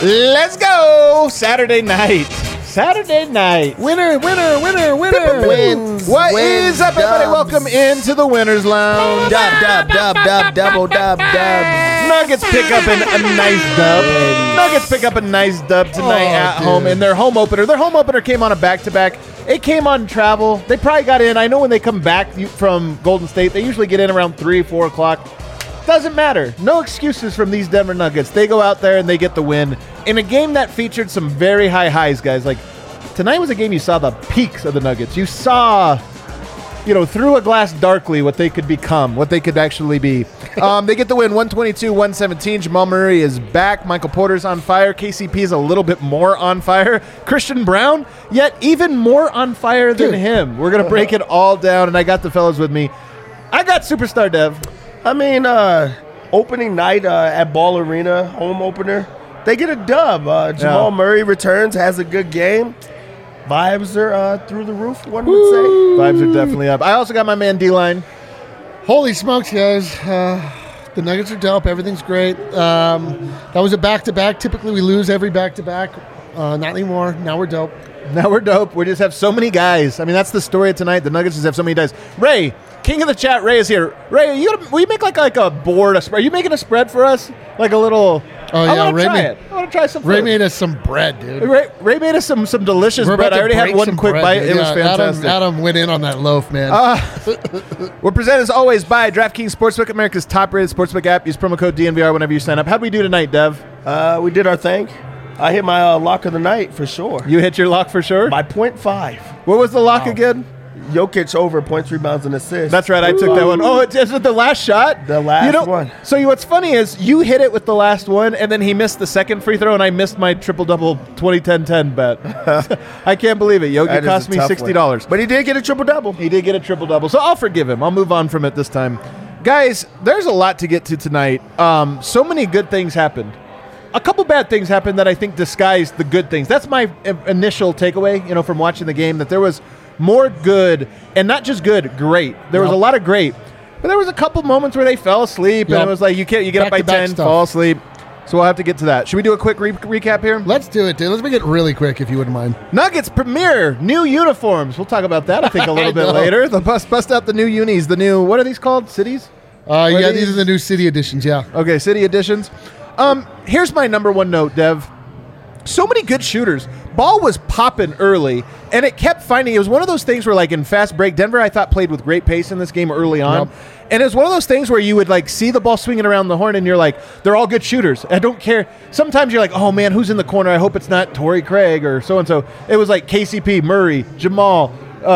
Let's go! Saturday night. Winner. Wins. What is up, everybody? Welcome into the Winners Lounge. Double. Nuggets pick up a nice dub tonight at home in their home opener. Their home opener came on a back-to-back. It came on travel. They probably got in. I know when they come back from Golden State, they usually get in around 3, 4 o'clock. Doesn't matter. No excuses from these Denver Nuggets. They go out there and they get the win in a game that featured some very high highs, guys. Like, tonight was a game you saw the peaks of the Nuggets. You saw, through a glass darkly what they could become, what they could actually be. They get the win 122-117. Jamal Murray is back. Michael Porter's on fire. KCP is a little bit more on fire. Christian Brown, yet even more on fire than him. We're going to break it all down, and I got the fellas with me. I got Superstar Dev. I mean, opening night at Ball Arena, home opener, they get a dub. Jamal Murray returns, has a good game. Vibes are through the roof, one would say. Vibes are definitely up. I also got my man D-Line. Holy smokes, guys. The Nuggets are dope. Everything's great. That was a back-to-back. Typically, we lose every back-to-back. Not anymore. Now we're dope. We just have so many guys. I mean, that's the story of tonight. The Nuggets just have so many guys. Ray, king of the chat, Ray is here. Ray, will you make like a board, a spread? Are you making a spread for us? Like a little... Oh, yeah. I want to try some Ray food. made us some bread, dude. Ray made us some delicious bread. I already had one quick bite. Dude. It was fantastic. Adam went in on that loaf, man. We're presented as always by DraftKings Sportsbook, America's top-rated sportsbook app. Use promo code DNVR whenever you sign up. How'd we do tonight, Dev? We did our thing. I hit my lock of the night for sure. You hit your lock for sure? By 0.5. What was the lock again? Jokic over points, rebounds, and assists. That's right. I took that one. Oh, is it the last shot? The last one. So what's funny is you hit it with the last one, and then he missed the second free throw, and I missed my triple-double 20-10-10 bet. I can't believe it. Yogi cost me $60. But he did get a triple-double. He did get a triple-double. So I'll forgive him. I'll move on from it this time. Guys, there's a lot to get to tonight. So many good things happened. A couple bad things happened that I think disguised the good things. That's my initial takeaway, from watching the game, that there was more good, and not just good, great. There was a lot of great. But there was a couple moments where they fell asleep, and it was like, you get up by 10, fall asleep. So we'll have to get to that. Should we do a quick recap here? Let's do it, dude. Let's make it really quick, if you wouldn't mind. Nuggets premiere new uniforms. We'll talk about that, I think, a little bit later. The bust out the new unis, the new, what are these called? Cities? These are the new city editions, yeah. Okay, city editions. Here's my number one note, Dev. So many good shooters. Ball was popping early, and it kept finding. It was one of those things where, like in fast break, Denver, I thought, played with great pace in this game early on. Yep. And it was one of those things where you would see the ball swinging around the horn, and you're like, they're all good shooters. I don't care. Sometimes you're like, oh, man, who's in the corner? I hope it's not Torrey Craig or so-and-so. It was like KCP, Murray, Jamal,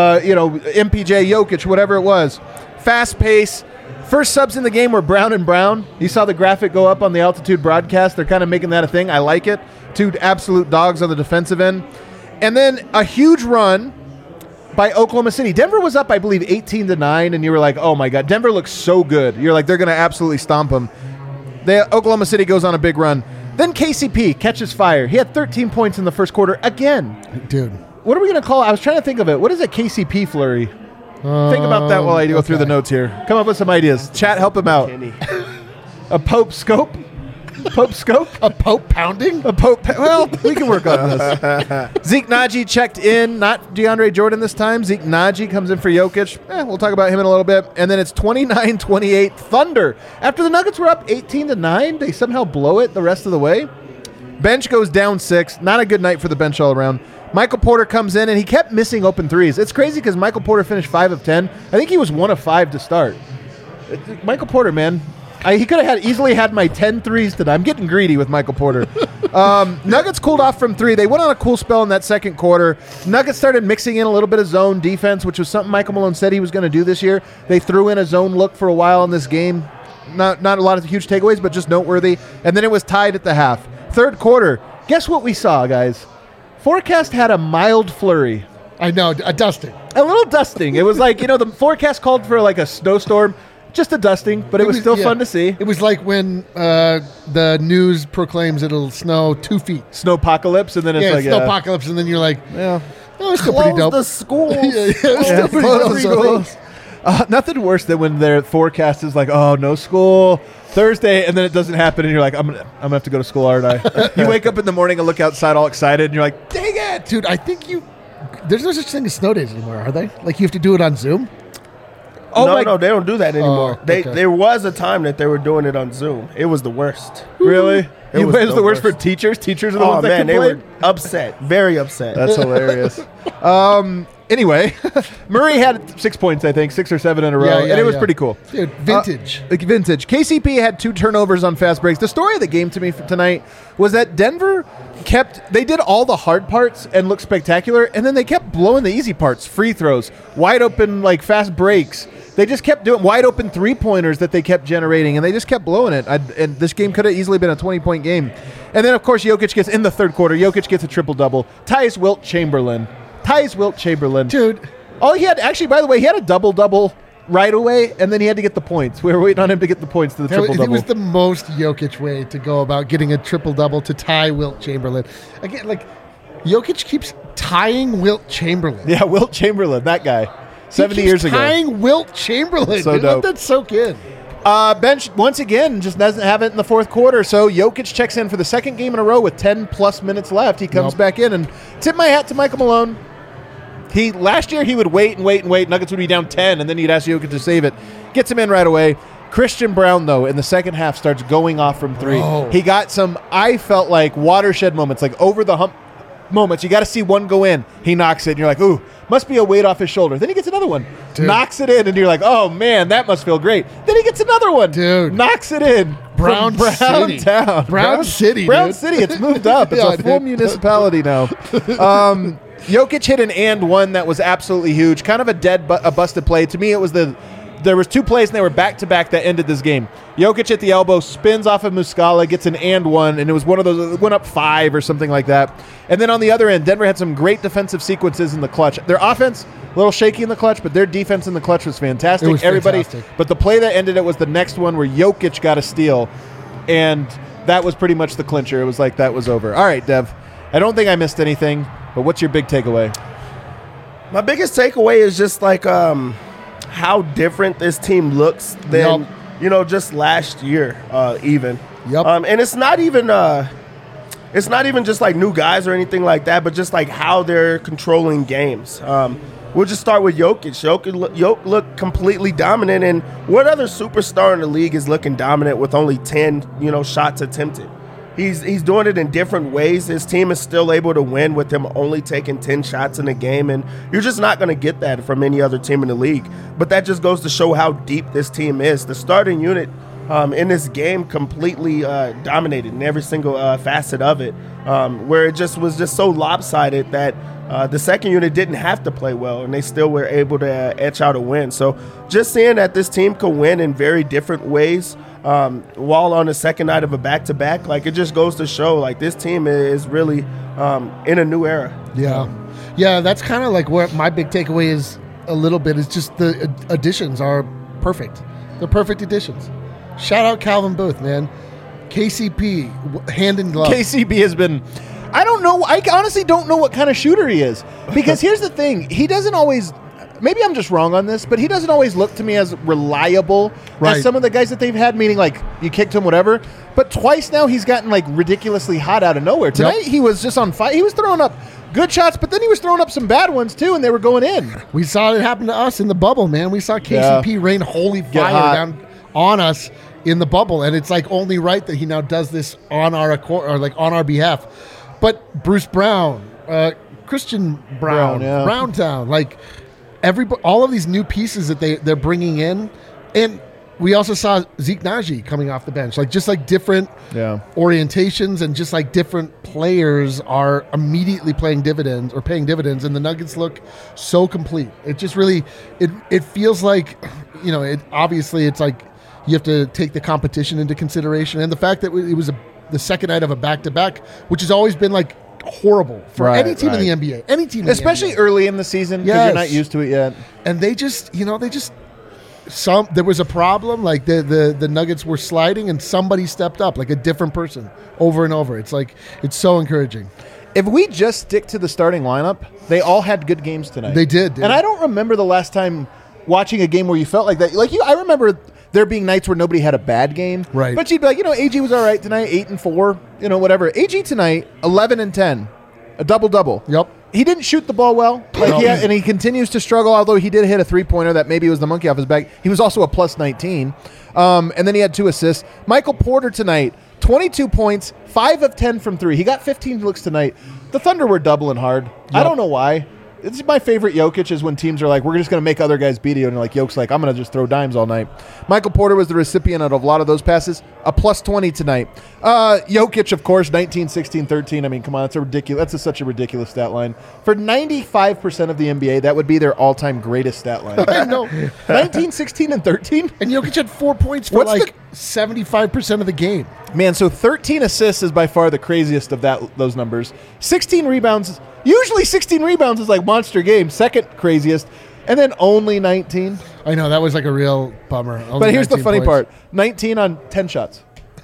MPJ, Jokic, whatever it was. Fast pace. First subs in the game were Brown and Brown. You saw the graphic go up on the altitude broadcast. They're kind of making that a thing. I like it. Two absolute dogs on the defensive end. And then a huge run by Oklahoma City. Denver was up, I believe, 18-9, and you were like, oh, my God. Denver looks so good. You're like, they're going to absolutely stomp them. Oklahoma City goes on a big run. Then KCP catches fire. He had 13 points in the first quarter again. Dude. What are we going to call it? I was trying to think of it. What is a KCP flurry? Think about that while I go through the notes here. Come up with some ideas. Chat, help him out. A Pope scope? Pope scope? A Pope pounding? Well, we can work on this. Zeke Naji checked in. Not DeAndre Jordan this time. Zeke Naji comes in for Jokic. We'll talk about him in a little bit. And then it's 29-28 Thunder. After the Nuggets were up 18-9, they somehow blow it the rest of the way. Bench goes down 6. Not a good night for the bench all around. Michael Porter comes in, and he kept missing open threes. It's crazy because Michael Porter finished 5 of 10. I think he was 1 of 5 to start. Michael Porter, man. He could have easily had my 10 threes today. I'm getting greedy with Michael Porter. Nuggets cooled off from 3. They went on a cool spell in that second quarter. Nuggets started mixing in a little bit of zone defense, which was something Michael Malone said he was going to do this year. They threw in a zone look for a while in this game. Not a lot of huge takeaways, but just noteworthy. And then it was tied at the half. Third quarter, guess what we saw, guys? Forecast had a mild flurry. I know, a dusting. A little dusting. It was like, the forecast called for like a snowstorm, just a dusting, but it was still fun to see. It was like when the news proclaims it'll snow 2 feet. Snowpocalypse, and then it's like... snowpocalypse, and then you're like, yeah, no, it's still pretty dope. Close the schools. It's still pretty dope. Nothing worse than when their forecast is like, oh, no school, Thursday, and then it doesn't happen, and you're like, I'm gonna have to go to school, aren't I? You wake up in the morning and look outside all excited, and you're like, dang it! Dude, I think there's no such thing as snow days anymore, are they? Like, you have to do it on Zoom? No, they don't do that anymore. okay. There was a time that they were doing it on Zoom. It was the worst. Really? It It was was the the worst for worst. teachers? Teachers are the Oh ones that man, they complain? were upset, very upset. That's hilarious. Anyway, Murray had 6 points, I think, 6 or 7 in a row, and it was pretty cool. Dude, vintage. Vintage. KCP had 2 turnovers on fast breaks. The story of the game to me for tonight was that Denver they did all the hard parts and looked spectacular, and then they kept blowing the easy parts, free throws, wide open, like fast breaks. They just kept doing wide open 3-pointers that they kept generating, and they just kept blowing it. And this game could have easily been a 20-point game. And then, of course, Jokic gets, in the third quarter, Jokic gets a triple-double. Ties Wilt Chamberlain. Dude. Oh, he had, actually, by the way, he had a double-double right away, and then he had to get the points. We were waiting on him to get the points to the triple-double. It was the most Jokic way to go about getting a triple-double to tie Wilt Chamberlain. Again, like, Jokic keeps tying Wilt Chamberlain. Yeah, Wilt Chamberlain, that guy. 70 years ago. Tying Wilt Chamberlain. So dude, dope. let that soak in. Bench, once again, just doesn't have it in the fourth quarter, so Jokic checks in for the second game in a row with 10-plus minutes left. He comes back in, and tip my hat to Michael Malone. Last year, he would wait. Nuggets would be down 10, and then he'd ask Jokic to save it. Gets him in right away. Christian Brown, though, in the second half, starts going off from 3. Oh. He got some, I felt like, watershed moments, like over-the-hump moments. You got to see one go in. He knocks it, and you're like, ooh, must be a weight off his shoulder. Then he gets another one. Dude. Knocks it in, and you're like, oh, man, that must feel great. Then he gets another one. Dude. Knocks it in. Brown City. Town. Brown City, Brown dude. City. It's moved up. It's Yeah, a full dude. municipality now. Jokic hit an and one that was absolutely huge. Kind of a busted play. To me, it was there was 2 plays, and they were back-to-back that ended this game. Jokic at the elbow, spins off of Muscala, gets an and one, and it was one of those, it went up 5 or something like that. And then on the other end, Denver had some great defensive sequences in the clutch. Their offense, a little shaky in the clutch, but their defense in the clutch was fantastic. It was fantastic. But the play that ended it was the next one where Jokic got a steal, and that was pretty much the clincher. It was like that was over. All right, Dev, I don't think I missed anything, but what's your big takeaway? My biggest takeaway is just like how different this team looks than just last year, even. Yep. And it's not even just like new guys or anything like that, but just like how they're controlling games. We'll just start with Jokic. Jokic looked completely dominant, and what other superstar in the league is looking dominant with only 10 shots attempted? He's doing it in different ways. His team is still able to win with him only taking 10 shots in a game, and you're just not going to get that from any other team in the league. But that just goes to show how deep this team is. The starting unit in this game completely dominated in every single facet of it, where it was just so lopsided that the second unit didn't have to play well, and they still were able to etch out a win. So just seeing that this team could win in very different ways, while on the second night of a back-to-back, like, it just goes to show, like, this team is really in a new era. Yeah, that's kind of like where my big takeaway is a little bit, is just the additions are perfect. They're perfect additions. Shout out Calvin Booth, man. KCP, hand in glove. KCP has been, I don't know, I honestly don't know what kind of shooter he is. Because here's the thing, he doesn't always, maybe I'm just wrong on this, but he doesn't always look to me as reliable as some of the guys that they've had, meaning like you kicked him, whatever. But twice now he's gotten like ridiculously hot out of nowhere. Tonight he was just on fire. He was throwing up good shots, but then he was throwing up some bad ones too, and they were going in. We saw it happen to us in the bubble, man. We saw KCP rain holy fire down on us in the bubble, and it's like only right that he now does this on our accord, or like on our behalf. But Bruce Brown, Christian Brown, Browntown, like all of these new pieces that they're bringing in, and we also saw Zeke Naji coming off the bench, like just like different orientations, and just like different players are immediately paying dividends, and the Nuggets look so complete. It just really, it feels like, obviously it's like you have to take the competition into consideration, and the fact that it was the second night of a back-to-back, which has always been like horrible for any team in the NBA. Any team, especially early in the season, because you're not used to it yet. And there was a problem. Like the Nuggets were sliding, and somebody stepped up, like a different person, over and over. It's like, it's so encouraging. If we just stick to the starting lineup, they all had good games tonight. They did, dude. And I don't remember the last time watching a game where you felt like that. Like I remember there being nights where nobody had a bad game. Right. But you'd be like, AG was all right tonight, 8-4, whatever. AG tonight, 11-10, a double-double. Yep. He didn't shoot the ball well, and he continues to struggle, although he did hit a three-pointer that maybe was the monkey off his back. He was also a plus 19. And then he had 2 assists. Michael Porter tonight, 22 points, 5 of 10 from 3. He got 15 looks tonight. The Thunder were doubling hard. Yep. I don't know why. It's my favorite Jokic is when teams are like, we're just going to make other guys beat you. And like Jokic's like, I'm going to just throw dimes all night. Michael Porter was the recipient of a lot of those passes. A plus 20 tonight. Jokic, of course, 19, 16, 13. I mean, come on. That's such a ridiculous stat line. For 95% of the NBA, that would be their all-time greatest stat line. I know. 19, 16, and 13? And Jokic had 4 points for 75% of the game. Man, so 13 assists is by far the craziest of those numbers. 16 rebounds. Usually 16 rebounds is like monster game. Second craziest. And then only 19. I know. That was like a real bummer. But here's the funny part. 19 on 10 shots.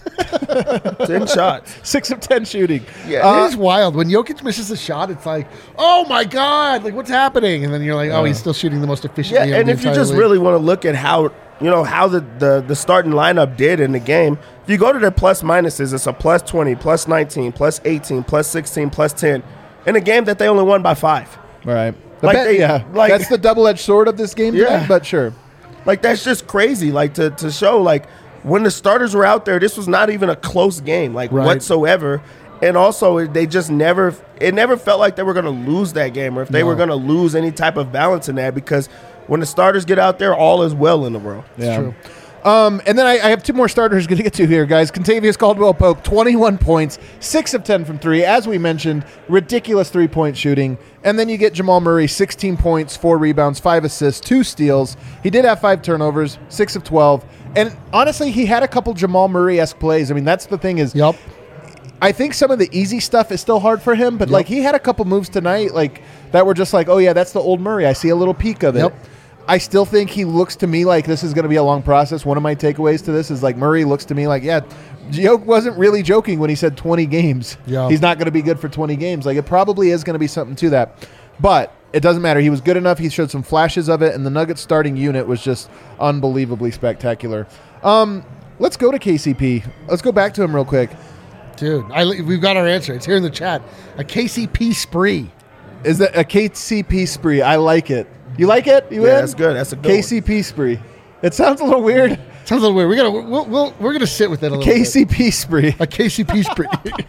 10 shots. 6 of 10 shooting. Yeah, it is wild. When Jokic misses a shot, it's like, oh my God, like what's happening? And then you're like, oh, he's still shooting the most efficiently. Yeah, and if you just really want to look at how the starting lineup did in the game, if you go to their plus minuses, it's a plus 20, plus 19, plus 18, plus 16, plus 10 in a game that they only won by 5. Right. That's the double-edged sword of this game tonight, but sure. Like, that's just crazy, like, to show, like, when the starters were out there, this was not even a close game, like, whatsoever. And also, it never felt like they were going to lose that game or if they were going to lose any type of balance in that, because when the starters get out there, all is well in the world. Yeah. It's true. And then I have 2 more starters going to get to here, guys. Contavious Caldwell-Pope, 21 points, 6 of 10 from 3. As we mentioned, ridiculous three-point shooting. And then you get Jamal Murray, 16 points, 4 rebounds, 5 assists, 2 steals. He did have 5 turnovers, 6 of 12. And honestly, he had a couple Jamal Murray-esque plays. I mean, that's the thing is, I think some of the easy stuff is still hard for him, but like he had a couple moves tonight like that were just like, oh yeah, that's the old Murray. I see a little peek of it. I still think he looks to me like this is going to be a long process. One of my takeaways to this is like Murray looks to me like, Jokic wasn't really joking when he said 20 games. Yeah. He's not going to be good for 20 games. Like it probably is going to be something to that. But it doesn't matter. He was good enough. He showed some flashes of it, and the Nuggets starting unit was just unbelievably spectacular. Let's go to KCP. Let's go back to him real quick. Dude, we've got our answer. It's here in the chat. A KCP spree. Is that a KCP spree? I like it. You like it? You in? That's good. That's a good KCP one. Spree. It sounds a little weird. Sounds a little weird. We're gonna sit with it a little KCP bit. Spree. A KCP spree.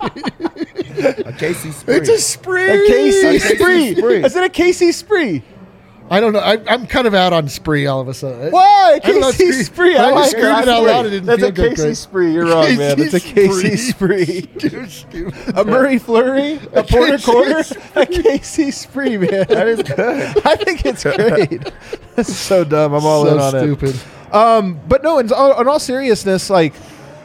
A KC spree. It's a spree. A KC spree. Is it a KC spree? I don't know. I'm kind of out on spree all of a sudden. Why? KC spree. I like it. Out loud. It didn't That's feel a KC spree. You're wrong, man. It's a KC spree. A Murray Fleury. A Porter Quarter. A KC spree, man. That is good. I think it's great. That's so dumb. I'm all in on stupid. It. But no, in all seriousness, like,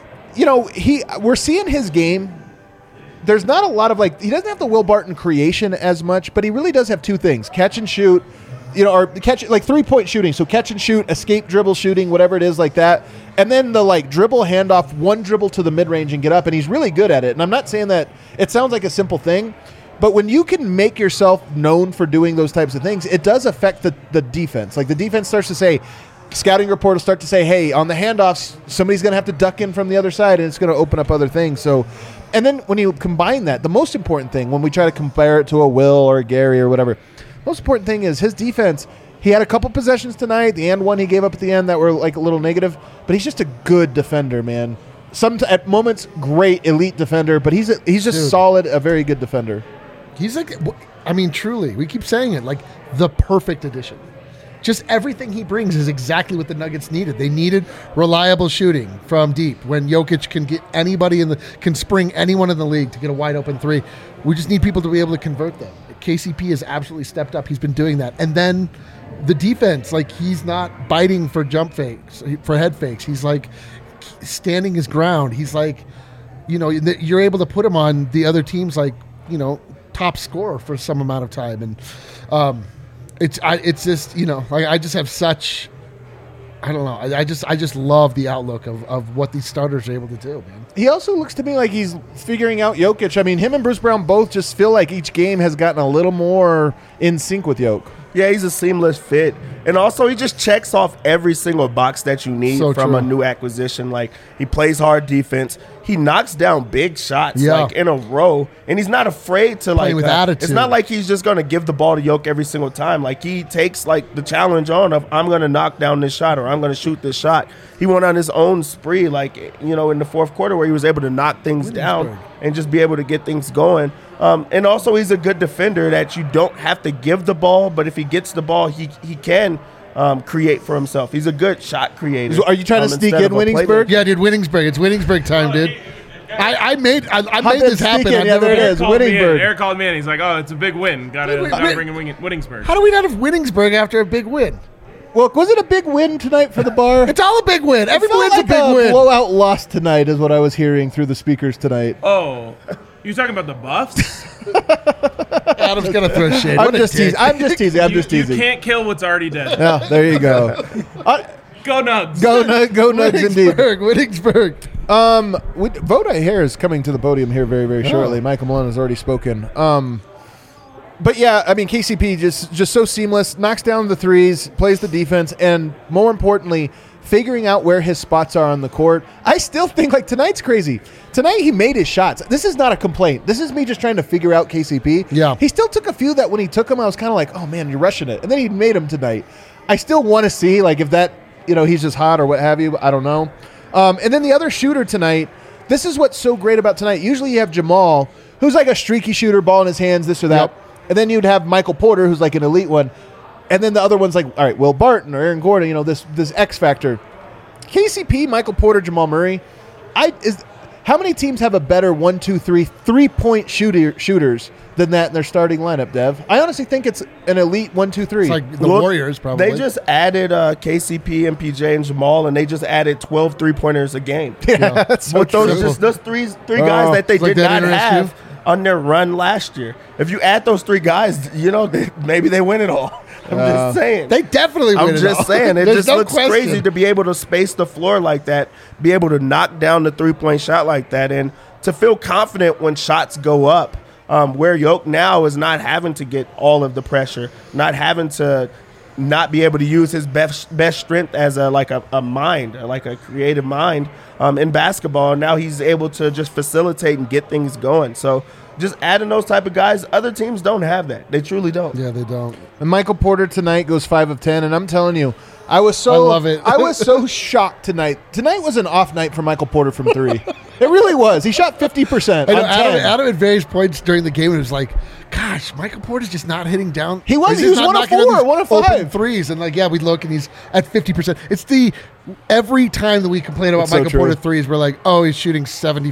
we're seeing his game. There's not a lot of he doesn't have the Will Barton creation as much, but he really does have 2 things: catch and shoot. Or catch, like 3-point shooting. So catch and shoot, escape dribble shooting, whatever it is like that. And then the dribble handoff, 1 dribble to the mid-range and get up. And he's really good at it. And I'm not saying that it sounds like a simple thing, but when you can make yourself known for doing those types of things, it does affect the defense. Like the defense starts to say, scouting report will start to say, hey, on the handoffs, somebody's going to have to duck in from the other side and it's going to open up other things. So, and then when you combine that, the most important thing when we try to compare it to a Will or a Gary or whatever, most important thing is his defense. He had a couple possessions tonight, the end one he gave up at the end that were like a little negative, but he's just a good defender, man. At moments, great elite defender, but he's just solid, a very good defender. He's truly, we keep saying it, like the perfect addition. Just everything he brings is exactly what the Nuggets needed. They needed reliable shooting from deep. When Jokic can get can spring anyone in the league to get a wide open 3, we just need people to be able to convert them. KCP has absolutely stepped up. He's been doing that. And then the defense, he's not biting for jump fakes, for head fakes. He's standing his ground. He's you're able to put him on the other team's top scorer for some amount of time. And it's just, I just have such, I don't know. I just love the outlook of what these starters are able to do, man. He also looks to me like he's figuring out Jokic. I mean, him and Bruce Brown both just feel like each game has gotten a little more in sync with Jokic. Yeah, he's a seamless fit. And also, he just checks off every single box that you need from a new acquisition. Like, he plays hard defense. He knocks down big shots, like, in a row. And he's not afraid to, like, with attitude. It's not like he's just going to give the ball to Yoke every single time. Like, he takes, like, the challenge on of, I'm going to knock down this shot or I'm going to shoot this shot. He went on his own spree, like, you know, in the fourth quarter where he was able to knock things down and just be able to get things going. And also, he's a good defender that you don't have to give the ball, but if he gets the ball, he can create for himself. He's a good shot creator. So are you trying to sneak in Winningsburg? Yeah, dude, Winningsburg. It's Winningsburg time, dude. I made this happen. Yeah, there it is. Winningsburg. Eric called me in. He's like, "Oh, it's a big win. Gotta bring in Winningsburg." How do we not have Winningsburg after a big win? Well, was it a big win tonight for the Bar? It's all a big win. Every win's like a big win. Blowout loss tonight is what I was hearing through the speakers tonight. Oh, you talking about the Buffs? Adam's gonna throw shade. I'm just teasing. You can't kill what's already dead. Yeah, there you go. Go Nugs. Go Nugs indeed. Winningsburg. Vote I Hear is coming to the podium here very, very shortly. Michael Malone has already spoken. But yeah, I mean, KCP just so seamless, knocks down the threes, plays the defense, and more importantly, figuring out where his spots are on the court. I still think, like, tonight's crazy. Tonight he made his shots. This is not a complaint. This is me just trying to figure out KCP. Yeah. He still took a few that when he took them, I was kind of like, oh, man, you're rushing it. And then he made them tonight. I still want to see, like, if that, you know, he's just hot or what have you. I don't know. And then the other shooter tonight, this is what's so great about tonight. Usually you have Jamal, who's like a streaky shooter, ball in his hands, this or that. Yep. And then you'd have Michael Porter, who's like an elite one. And then the other one's like, all right, Will Barton or Aaron Gordon, you know, this X factor. KCP, Michael Porter, Jamal Murray. How many teams have a better 1, 2, 3 3-point shooters than that in their starting lineup, Dev? I honestly think it's an elite 1, 2, 3. It's like the Warriors, probably. They just added KCP, MPJ, and Jamal, and they just added 12 3-pointers a game. Yeah, that's so with those three guys that they did not have on their run last year. If you add those three guys, you know, maybe they win it all. I'm just saying. They definitely win it all. I'm just saying. It just looks crazy to be able to space the floor like that, be able to knock down the three-point shot like that, and to feel confident when shots go up, where Yoke now is not having to get all of the pressure, not having to not be able to use his best strength as a mind, like a creative mind in basketball. Now he's able to just facilitate and get things going. So just adding those type of guys, other teams don't have that. They truly don't. Yeah, they don't. And Michael Porter tonight goes 5 of 10, and I'm telling you, I love it. I was so shocked tonight. Tonight was an off night for Michael Porter from 3. It really was. He shot 50%. Adam at various points during the game, it was like, gosh, Michael Porter's just not hitting down. He was 1 of 4, 1 of 5. Open threes. And, like, yeah, we look and he's at 50%. It's every time that we complain about Michael Porter threes, we're like, oh, he's shooting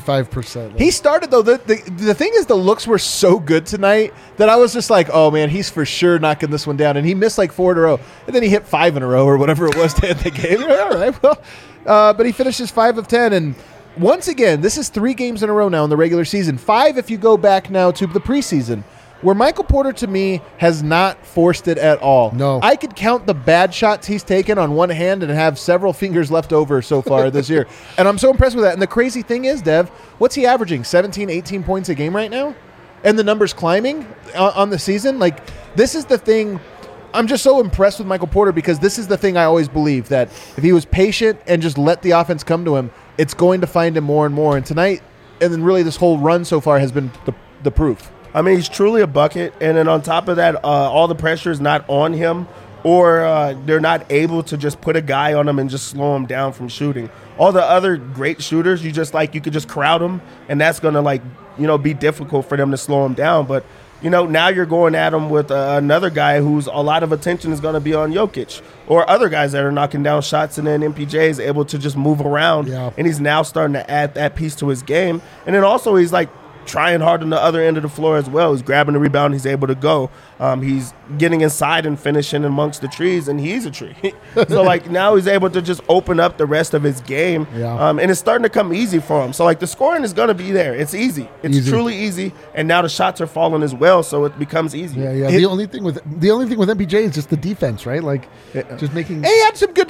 75%. Like, he started, though. The thing is, the looks were so good tonight that I was just like, oh, man, he's for sure knocking this one down. And he missed like 4 in a row. And then he hit 5 in a row or whatever it was to end the game. All right, well, but he finishes 5 of 10. And once again, this is 3 games in a row now in the regular season. 5 if you go back now to the preseason, where Michael Porter, to me, has not forced it at all. No. I could count the bad shots he's taken on one hand and have several fingers left over so far this year. And I'm so impressed with that. And the crazy thing is, Dev, what's he averaging? 17, 18 points a game right now? And the number's climbing on the season? Like, this is the thing. I'm just so impressed with Michael Porter because this is the thing I always believe, that if he was patient and just let the offense come to him, it's going to find him more and more. And tonight, and then really this whole run so far has been the proof. I mean, he's truly a bucket, and then on top of that, all the pressure is not on him, or they're not able to just put a guy on him and just slow him down from shooting. All the other great shooters, you could just crowd them, and that's going to, be difficult for them to slow him down. But, now you're going at him with another guy who's a lot of attention is going to be on Jokic, or other guys that are knocking down shots, and then MPJ is able to just move around, and he's now starting to add that piece to his game. And then also he's like, trying hard on the other end of the floor as well. He's grabbing the rebound. He's able to go. He's getting inside and finishing amongst the trees, and he's a tree. So, now he's able to just open up the rest of his game, and it's starting to come easy for him. So, the scoring is going to be there. It's easy. It's truly easy, and now the shots are falling as well, so it becomes easy. Yeah. The only thing with MPJ is just the defense, right? Just making. He had some good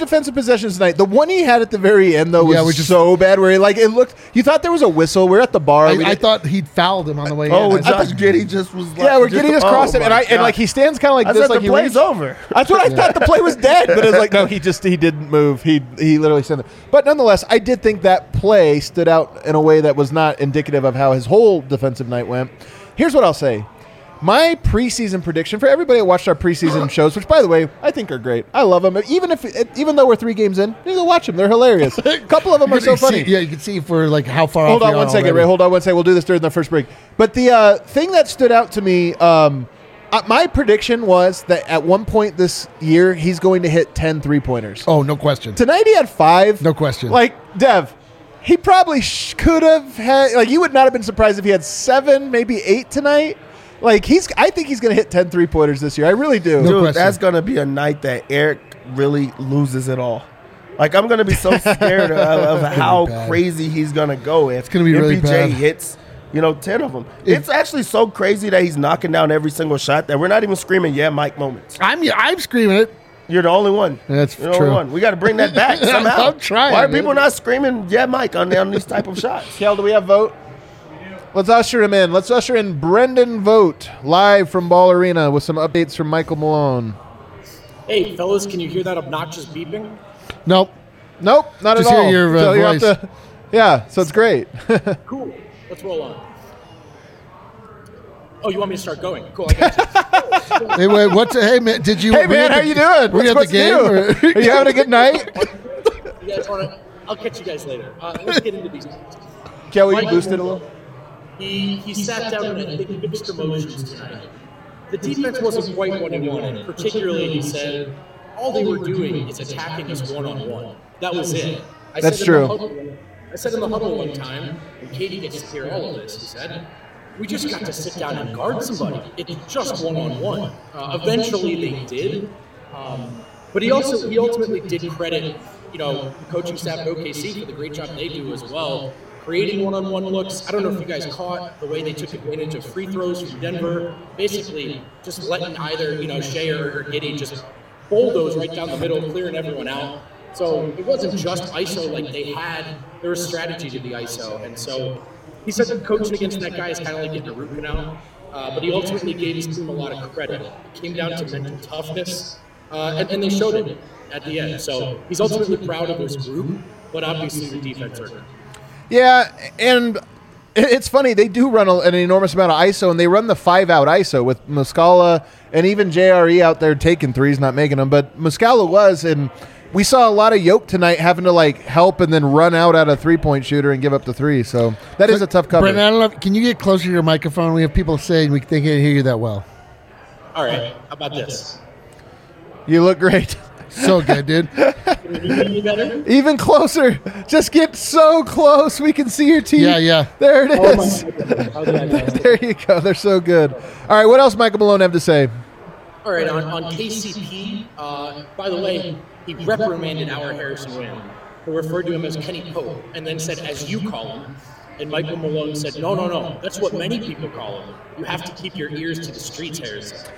defensive possessions tonight. The one he had at the very end, though, was so bad. Where it looked. You thought there was a whistle. We're at the bar. I thought he'd fouled him on the way in. Oh, Josh Giddey just was. Where Giddey just crossed him, and he stands kind of like this, like the play's over. That's what I thought. The play was dead, but it was like no, he didn't move. He literally stood there. But nonetheless, I did think that play stood out in a way that was not indicative of how his whole defensive night went. Here's what I'll say. My preseason prediction for everybody that watched our preseason shows, which by the way I think are great. I love them. Even though we're 3 games in, you go watch them. They're hilarious. A couple of them are so funny. You can see for like how far. Hold on one second, Ray. Hold on one second. We'll do this during the first break. But the thing that stood out to me, my prediction was that at one point this year he's going to hit 10 3-pointers. Oh, no question. Tonight he had 5. No question. Like Dev, he probably could have had. Like you would not have been surprised if he had 7, maybe 8 tonight. Like I think he's going to hit 10 3-pointers this year. I really do. Dude, that's going to be a night that Eric really loses it all. Like I'm going to be so scared of how crazy he's going to go if it's going to be really bad. hits, 10 of them. It's actually so crazy that he's knocking down every single shot that we're not even screaming "Yeah, Mike" moments. I'm screaming it. You're the only one. That's You're true. The only one. We got to bring that back somehow. I'm trying. Why are people not screaming "Yeah, Mike" on these type of shots? Kel, do we have vote? Let's usher him in. Let's usher in Brendan Vogt live from Ball Arena with some updates from Michael Malone. Hey, fellas, can you hear that obnoxious beeping? Nope, not just at all. Hear your voice. So it's great. Cool. Let's roll on. Oh, you want me to start going? Cool. I got you. Hey, wait, hey, man, did you? Hey, man, how you doing? Were you at the game? Are you having a good night? You guys want to? I'll catch you guys later. Let's get into these. Kelly, you boosted a little? He sat down and I think mixed emotions tonight. The defense wasn't quite what he wanted. Particularly, he said, all they were doing is attacking us one-on-one. That was it. That's true. I said in the huddle one time, and Katie gets to hear all of this, he said, we just got to sit down and guard somebody. It's just one-on-one. Eventually, they did. But he ultimately did credit, the coaching staff at OKC for the great job they do as well. Creating one-on-one looks. I don't know if you guys caught the way they took advantage of free throws from Denver. Basically, just letting either Shea or Giddey just bulldoze right down the middle, clearing everyone out. So it wasn't just ISO like they had. There was strategy to the ISO, and so he said that coaching against that guy is kind of like getting a root canal. But he ultimately gave his team a lot of credit. It came down to mental toughness, and they showed it at the end. So he's ultimately proud of his group, but obviously the defense are. Yeah, and it's funny. They do run an enormous amount of ISO, and they run the 5-out ISO with Muscala and even JRE out there taking threes, not making them. But Muscala was, and we saw a lot of Yoke tonight having to help and then run out at a 3-point shooter and give up the 3. So that is a tough cover. Brendan, I don't know. Can you get closer to your microphone? We have people saying we can't hear you that well. All right. How about this? You look great. So good, dude. Even closer. Just get so close we can see your teeth. Yeah. There it is. There you go. They're so good. All right, what else Michael Malone have to say? All right, on KCP, by the way, he reprimanded our Harrison Wind, who referred to him as Kenny Pope, and then said, as you call him. And Michael Malone said, no, that's what many people call him. You have to keep your ears to the streets, Harrison.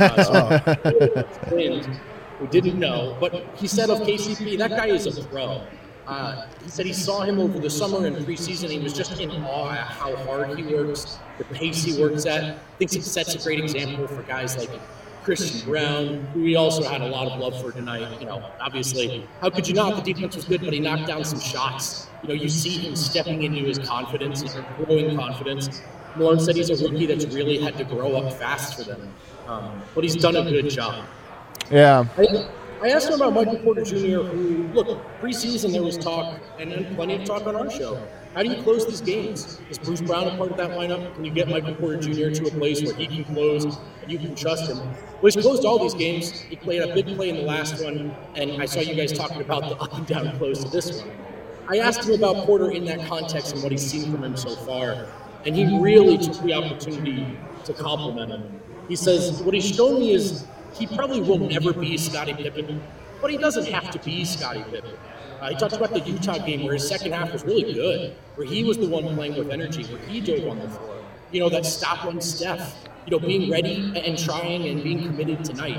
We didn't know, but he said of KCP, that guy is a pro. He said he saw him over the summer and preseason. He was just in awe at how hard he works, the pace he works at. Thinks it sets a great example for guys like Christian Brown, who we also had a lot of love for tonight. Obviously, how could you not? The defense was good, but he knocked down some shots. You see him stepping into his confidence, his growing confidence. Malone said he's a rookie that's really had to grow up fast for them, but he's done a good job. Yeah. I asked him about Michael Porter Jr., who, look, preseason there was talk, and plenty of talk on our show. How do you close these games? Is Bruce Brown a part of that lineup? Can you get Michael Porter Jr. to a place where he can close and you can trust him? Well, he's closed all these games. He played a big play in the last one, and I saw you guys talking about the up and down close to this one. I asked him about Porter in that context and what he's seen from him so far, and he really took the opportunity to compliment him. He says, what he's shown me is he probably will never be Scottie Pippen, but he doesn't have to be Scottie Pippen. He talked about the Utah game where his second half was really good, where he was the one playing with energy, where he dove on the floor. That stop-run Steph, being ready and trying and being committed tonight.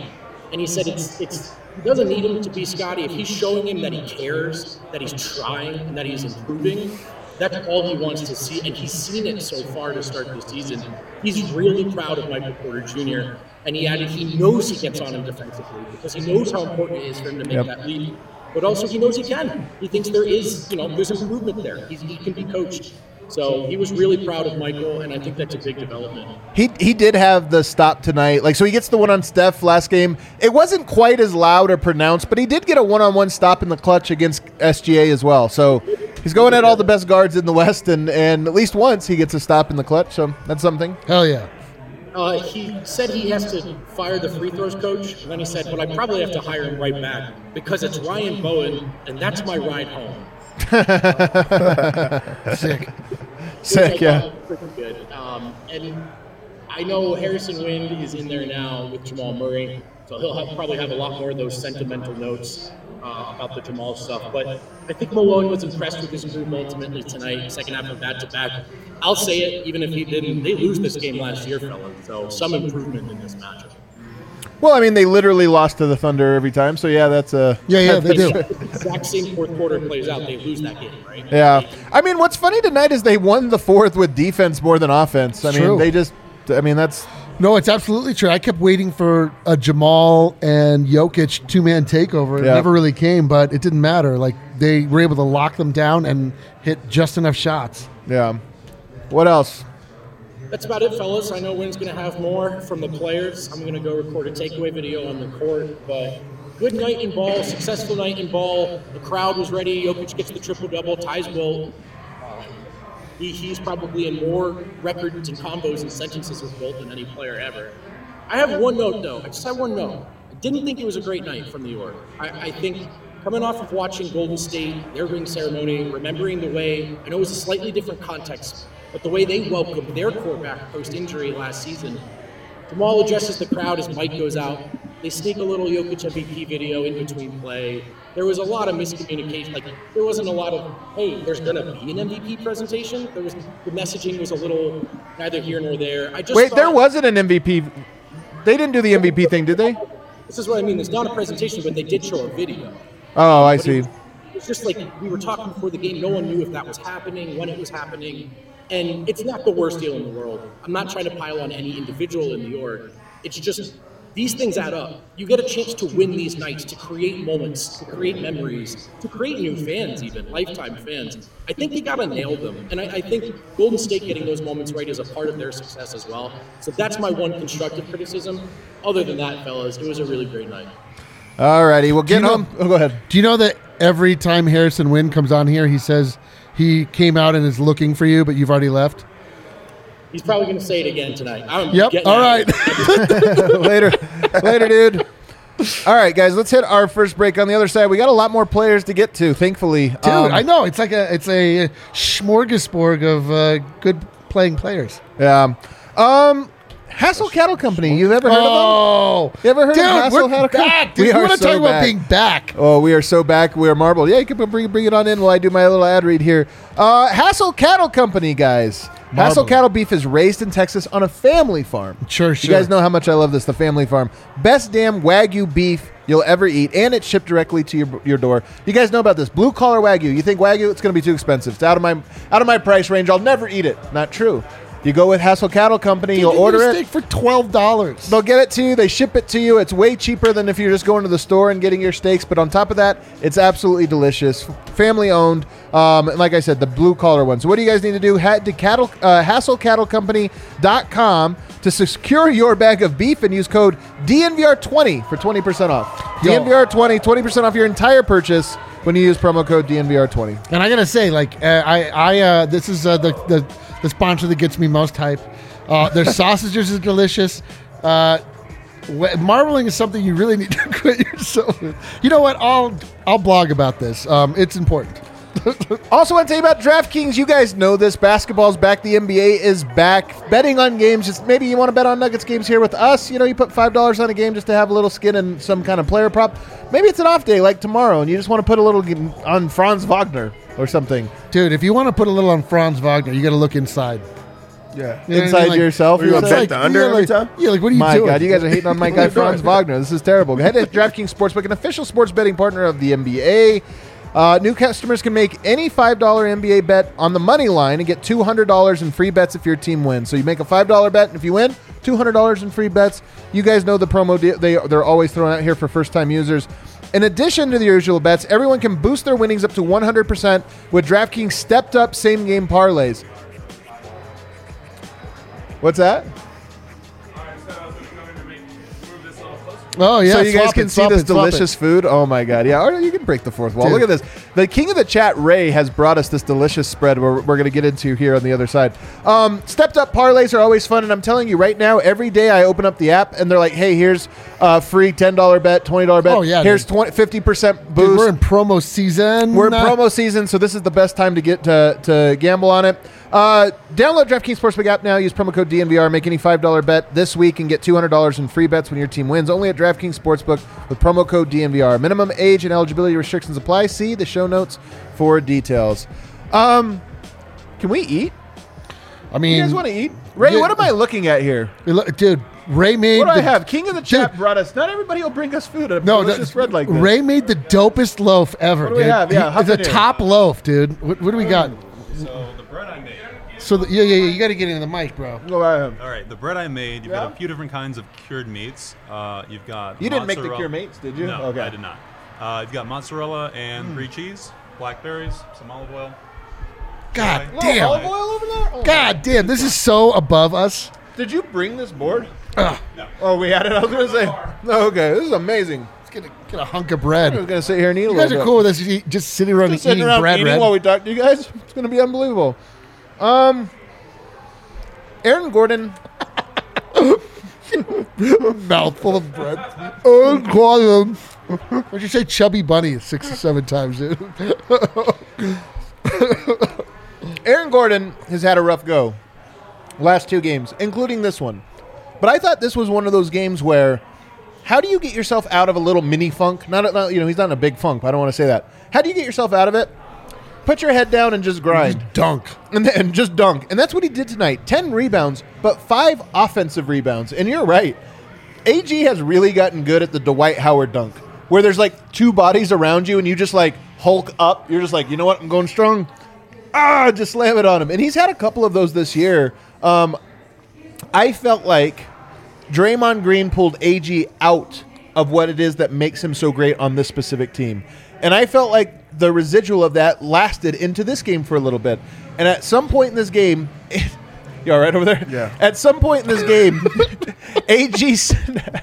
And he said he doesn't need him to be Scotty. If he's showing him that he cares, that he's trying, and that he's improving, that's all he wants to see. And he's seen it so far to start the season. He's really proud of Michael Porter Jr. And he added he knows he gets on him defensively because he knows how important it is for him to make that leap. But also he knows he can. He thinks there's improvement there. He can be coached. So he was really proud of Michael, and I think that's a big development. He did have the stop tonight. So he gets the one on Steph last game. It wasn't quite as loud or pronounced, but he did get a one-on-one stop in the clutch against SGA as well. So he's going at all the best guards in the West, and at least once he gets a stop in the clutch. So that's something. Hell yeah. He said he has to fire the free throws coach, and then he said, but I probably have to hire him right back because it's Ryan Bowen, and that's my ride home. Sick, yeah. Pretty good. And I know Harrison Wind is in there now with Jamal Murray, so he'll probably have a lot more of those sentimental notes about the Jamal stuff. But I think Malone was impressed with his group ultimately tonight, second half of back-to-back. I'll say it, even if he didn't. They lose this game last year, fellas, so some improvement in this matchup. Well, I mean, they literally lost to the Thunder every time, so yeah, that's a... Yeah, they do. The exact same fourth quarter plays out, they lose that game, right? Yeah. I mean, what's funny tonight is they won the fourth with defense more than offense. I mean, that's... No, it's absolutely true. I kept waiting for a Jamal and Jokic two-man takeover. It never really came, but it didn't matter. Like, they were able to lock them down and hit just enough shots. Yeah. What else? That's about it, fellas. I know Wynn's going to have more from the players. I'm going to go record a takeaway video on the court, but good night in ball, successful night in ball. The crowd was ready. Jokic gets the triple-double. Ties Wilt. He's probably in more records and combos and sentences with Wilt than any player ever. I have one note, though. I just have one note. I didn't think it was a great night from New York. I think coming off of watching Golden State, their ring ceremony, remembering the way, I know it was a slightly different context, but the way they welcomed their quarterback post-injury last season. Jamal addresses the crowd as Mike goes out. They sneak a little Jokic MVP video in between play. There was a lot of miscommunication. Like, there wasn't a lot of, hey, there's going to be an MVP presentation. The messaging was a little neither here nor there. There wasn't an MVP. They didn't do the MVP thing, did they? This is what I mean. It's not a presentation, but they did show a video. Oh, I see. It's just like we were talking before the game. No one knew if that was happening, when it was happening. And it's not the worst deal in the world. I'm not trying to pile on any individual in New York. It's just these things add up. You get a chance to win these nights, to create moments, to create memories, to create new fans even, lifetime fans. I think they got to nail them. And I think Golden State getting those moments right is a part of their success as well. So that's my one constructive criticism. Other than that, fellas, it was a really great night. All righty, well, get home. Go ahead. Do you know that every time Harrison Wind comes on here, he says he came out and is looking for you, but you've already left? He's probably going to say it again tonight. All right. Later, dude. All right, guys, let's hit our first break. On the other side, we got a lot more players to get to, thankfully. Dude, I know. It's a smorgasbord of good playing players. Yeah. Hassel Cattle Company. You've ever heard of them? You ever heard of Hassel Cattle Company? Dude, we want to talk about being back. Oh, we are so back. We are marbled. Yeah, you can bring it on in while I do my little ad read here. Hassel Cattle Company, guys. Hassel Cattle beef is raised in Texas on a family farm. Sure. You guys know how much I love this, the family farm. Best damn Wagyu beef you'll ever eat, and it's shipped directly to your door. You guys know about this. Blue collar Wagyu. You think Wagyu? It's going to be too expensive. It's out of my price range. I'll never eat it. Not true. You go with Hassel Cattle Company, you'll order it. Steak for $12. They'll get it to you. They ship it to you. It's way cheaper than if you're just going to the store and getting your steaks. But on top of that, it's absolutely delicious. Family owned. And like I said, the blue collar one. So what do you guys need to do? Head to HassleCattleCompany.com to secure your bag of beef and use code DNVR20 for 20% off. DNVR20, 20% off your entire purchase when you use promo code DNVR20. And I got to say, this is the sponsor that gets me most hype. Their sausages are delicious. Marbling is something you really need to quit yourself with. You know what? I'll blog about this. It's important. Also want to tell you about DraftKings. You guys know this. Basketball's back. The NBA is back. Betting on games. Just maybe you want to bet on Nuggets games here with us. You know, you put $5 on a game just to have a little skin and some kind of player prop. Maybe it's an off day like tomorrow, and you just want to put a little on Franz Wagner or something. Dude, if you want to put a little on Franz Wagner, you got to look inside. Yeah. You know what I inside mean? Like, yourself. Were you You're gonna like, bet the under every time? Yeah, like what are you my doing? God, you guys are hating on my guy Franz Wagner. This is terrible. Head to DraftKings Sportsbook, an official sports betting partner of the NBA. New customers can make any $5 NBA bet on the money line and get $200 in free bets if your team wins. So you make a $5 bet, and if you win, $200 in free bets. You guys know the promo they're always throwing out here for first-time users. In addition to the usual bets, everyone can boost their winnings up to 100% with DraftKings stepped-up same-game parlays. What's that? Oh yeah, So you guys swap can it, see swap this it, swap it. delicious food. Oh my God. Yeah, or you can break the fourth wall. Dude. Look at this. The king of the chat, Ray, has brought us this delicious spread we're going to get into here on the other side. Stepped up parlays are always fun, and I'm telling you right now, every day I open up the app and they're like, hey, here's free $10 bet, $20 bet. Oh, yeah, here's dude. 50% boost. Dude, we're in promo season. We're in promo season, so this is the best time to get to gamble on it. Download DraftKings Sportsbook app now. Use promo code DNVR. Make any $5 bet this week and get $200 in free bets when your team wins. Only at DraftKings Sportsbook with promo code DNVR. Minimum age and eligibility restrictions apply. See the show notes for details. Can we eat? I mean, You guys want to eat? Ray, yeah. what am I looking at here? Dude, Ray made. What do I the- have? King of the chat Dude. brought us. Not everybody will bring us food. A No, delicious spread like this. Ray made the dopest loaf ever. What do we dude. have? Yeah, It's a Huffington. top loaf, dude. What do we got? So the bread I made. So yeah, you got to get into the mic, bro. Go ahead. All right, the bread I made. You've Yeah? got a few different kinds of cured meats. You've got You didn't make the mozzarella- cured meats, did you? No, Okay. I did not. You've got mozzarella and brie cheese, blackberries, some olive oil. God Okay. Little damn. olive oil over there? Oh, God damn, this is so above us. Did you bring this board? No. Oh, we had it. I was going to say. Oh, okay, this is amazing. Let's get a hunk of I bread. was going to sit here and eat a You little guys are bit. cool with us just sitting around Just and sitting eating around bread, eating Red. while we talk to you guys. It's going to be unbelievable. Aaron Gordon. Mouthful of bread. Oh, God. What'd you say, chubby bunny 6 or 7 times, dude? Aaron Gordon has had a rough go last 2 games, including this one. But I thought this was one of those games where, how do you get yourself out of a little mini funk? Not he's not in a big funk. But I don't want to say that. How do you get yourself out of it? Put your head down and just grind. Just dunk. And then just dunk. And that's what he did tonight. 10 rebounds, but 5 offensive rebounds. And you're right. AG has really gotten good at the Dwight Howard dunk, where there's like 2 bodies around you and you just like hulk up. You're just like, you know what? I'm going strong. Just slam it on him. And he's had a couple of those this year. I felt like Draymond Green pulled AG out of what it is that makes him so great on this specific team. And I felt like the residual of that lasted into this game for a little bit. And at some point in this game, you all right over there? Yeah. At some point in this game, AG, this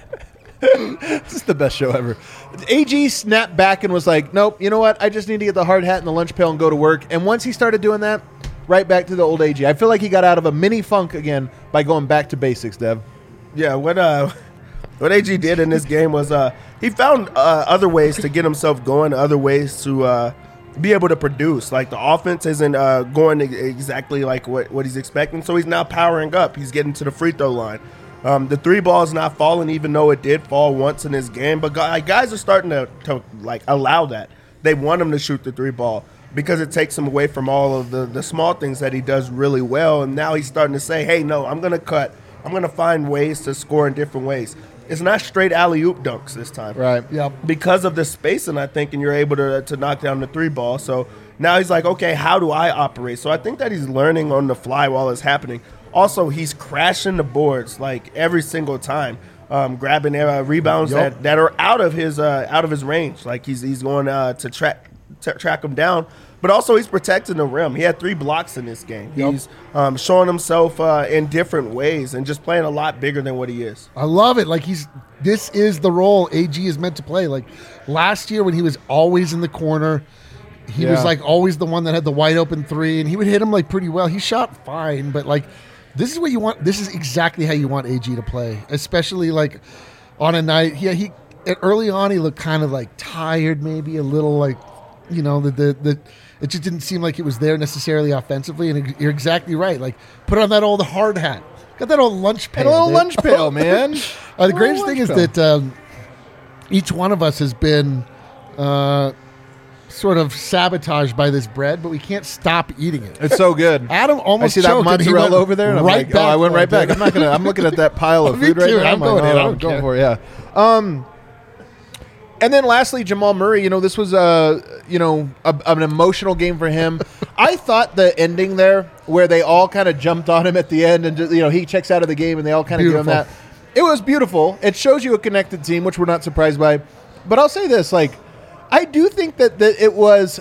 is the best show ever. AG snapped back and was like, nope, you know what? I just need to get the hard hat and the lunch pail and go to work. And once he started doing that, right back to the old AG. I feel like he got out of a mini funk again by going back to basics, Dev. Yeah, what AG did in this game was he found other ways to get himself going, other ways to be able to produce. Like the offense isn't going exactly like what he's expecting, so he's now powering up. He's getting to the free throw line. The 3 ball is not falling, even though it did fall once in this game. But guys are starting to like allow that. They want him to shoot the 3 ball because it takes him away from all of the small things that he does really well. And now he's starting to say, hey, no, I'm going to cut. I'm going to find ways to score in different ways. It's not straight alley-oop dunks this time. Right. Yep. Because of the spacing, I think, and you're able to knock down the 3 ball. So now he's like, okay, how do I operate? So I think that he's learning on the fly while it's happening. Also, he's crashing the boards like every single time, grabbing rebounds Yep. that are out of his range. Like he's going to track him down. But also, he's protecting the rim. He had 3 blocks in this game. Yep. He's showing himself in different ways and just playing a lot bigger than what he is. I love it. Like this is the role AG is meant to play. Like last year when he was always in the corner, he was Yeah. like always the one that had the wide open 3, and he would hit him like pretty well. He shot fine, but like this is what you want. This is exactly how you want AG to play, especially like on a night. Yeah, he early on he looked kind of like tired, maybe a little like, you know, the it just didn't seem like it was there necessarily offensively. And you're exactly right. Like put on that old hard hat, got that old lunch pail. And a little dude. lunch pail, man. The greatest thing is that each one of us has been sort of sabotaged by this bread, but we can't stop eating it. It's so good. Adam almost I see that choked and he mozzarella went over there, and I'm right like, back I went for right it, back. dude. I'm looking at that pile of Me food right too. now. I'm going in. I don't going care. for it. Yeah. And then lastly, Jamal Murray. This was an emotional game for him. I thought the ending there, where they all kind of jumped on him at the end, and he checks out of the game, and they all kind of give him that. It was beautiful. It shows you a connected team, which we're not surprised by. But I'll say this: I do think that it was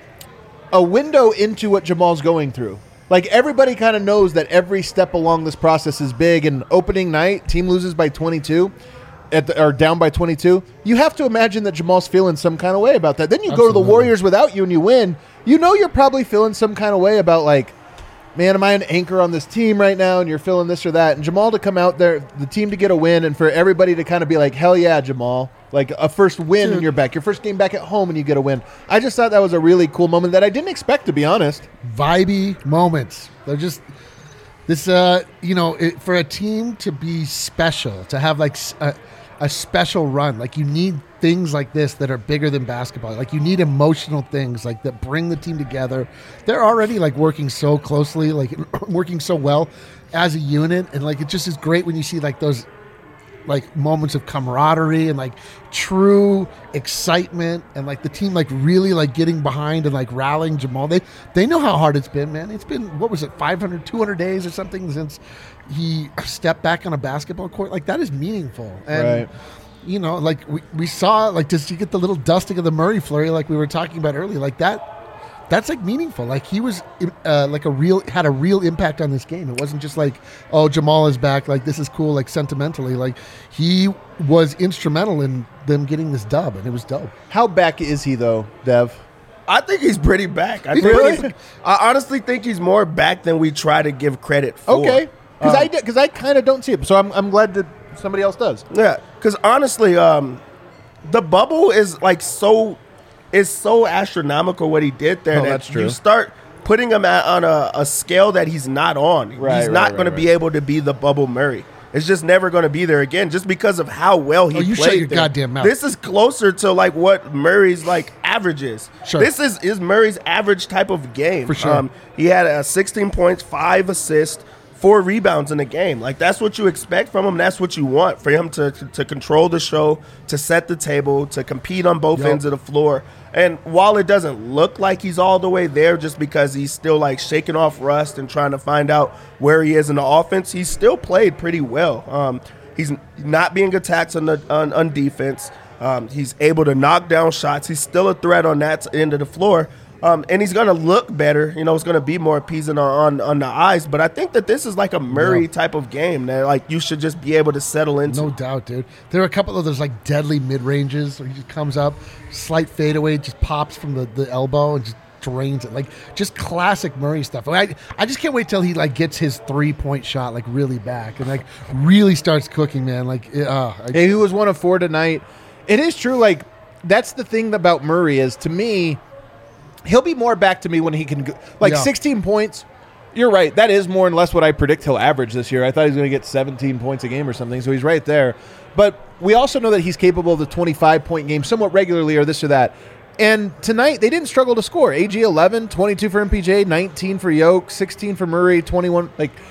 a window into what Jamal's going through. Everybody kind of knows that every step along this process is big. And opening night, team loses by 22. Or down by 22, you have to imagine that Jamal's feeling some kind of way about that. Then you go to the Warriors without you and you win. You're probably feeling some kind of way about man, am I an anchor on this team right now? And you're feeling this or that. And Jamal to come out there, the team to get a win, and for everybody to kind of be like, hell yeah, Jamal. A first win in your back. Your first game back at home and you get a win. I just thought that was a really cool moment that I didn't expect, to be honest. Vibey moments. They're just... This, for a team to be special, to have a special run, you need things like this that are bigger than basketball. You need emotional things that bring the team together. They're already working so closely, working so well as a unit, and it just is great when you see those moments of camaraderie and true excitement and the team really getting behind and rallying Jamal. They know how hard it's been, man. It's been, what was it, 200 days or something since he stepped back on a basketball court. That is meaningful. And right. We saw, just you get the little dusting of the Murray flurry we were talking about earlier, that's meaningful. He was had a real impact on this game. It wasn't just oh, Jamal is back. This is cool. Sentimentally, he was instrumental in them getting this dub, and it was dope. How back is he though, Dev? I think he's pretty back. Really? I honestly think he's more back than we try to give credit for. Okay, because I kind of don't see it. So I'm glad that somebody else does. Yeah, because honestly, the bubble is so. It's so astronomical what he did there. That's true. You start putting him on a scale that he's not on. He's not going to be able to be the Bubble Murray. It's just never going to be there again, just because of how well he played. You shut your goddamn mouth. This is closer to what Murray's average is. Sure. This is Murray's average type of game. For sure. He had 16 points, 5 assists, 4 rebounds in a game. That's what you expect from him. That's what you want for him to control the show, to set the table, to compete on both ends of the floor. And while it doesn't look like he's all the way there just because he's still shaking off rust and trying to find out where he is in the offense, he's still played pretty well. He's not being attacked on defense. He's able to knock down shots. He's still a threat on that end of the floor. And he's going to look better. It's going to be more appeasing on the eyes. But I think that this is a Murray type of game that you should just be able to settle into. No doubt, dude. There are a couple of those deadly mid-ranges where he just comes up, slight fadeaway, just pops from the elbow and just drains it. Just classic Murray stuff. I just can't wait till he gets his 3-point shot really back and really starts cooking, man. He was 1 of 4 tonight. It is true. That's the thing about Murray is, to me, he'll be more back to me when he can go, 16 points. You're right. That is more or less what I predict he'll average this year. I thought he was going to get 17 points a game or something, so he's right there. But we also know that he's capable of the 25-point game somewhat regularly or this or that. And tonight, they didn't struggle to score. AG 11, 22 for MPJ, 19 for Yoke, 16 for Murray, 21.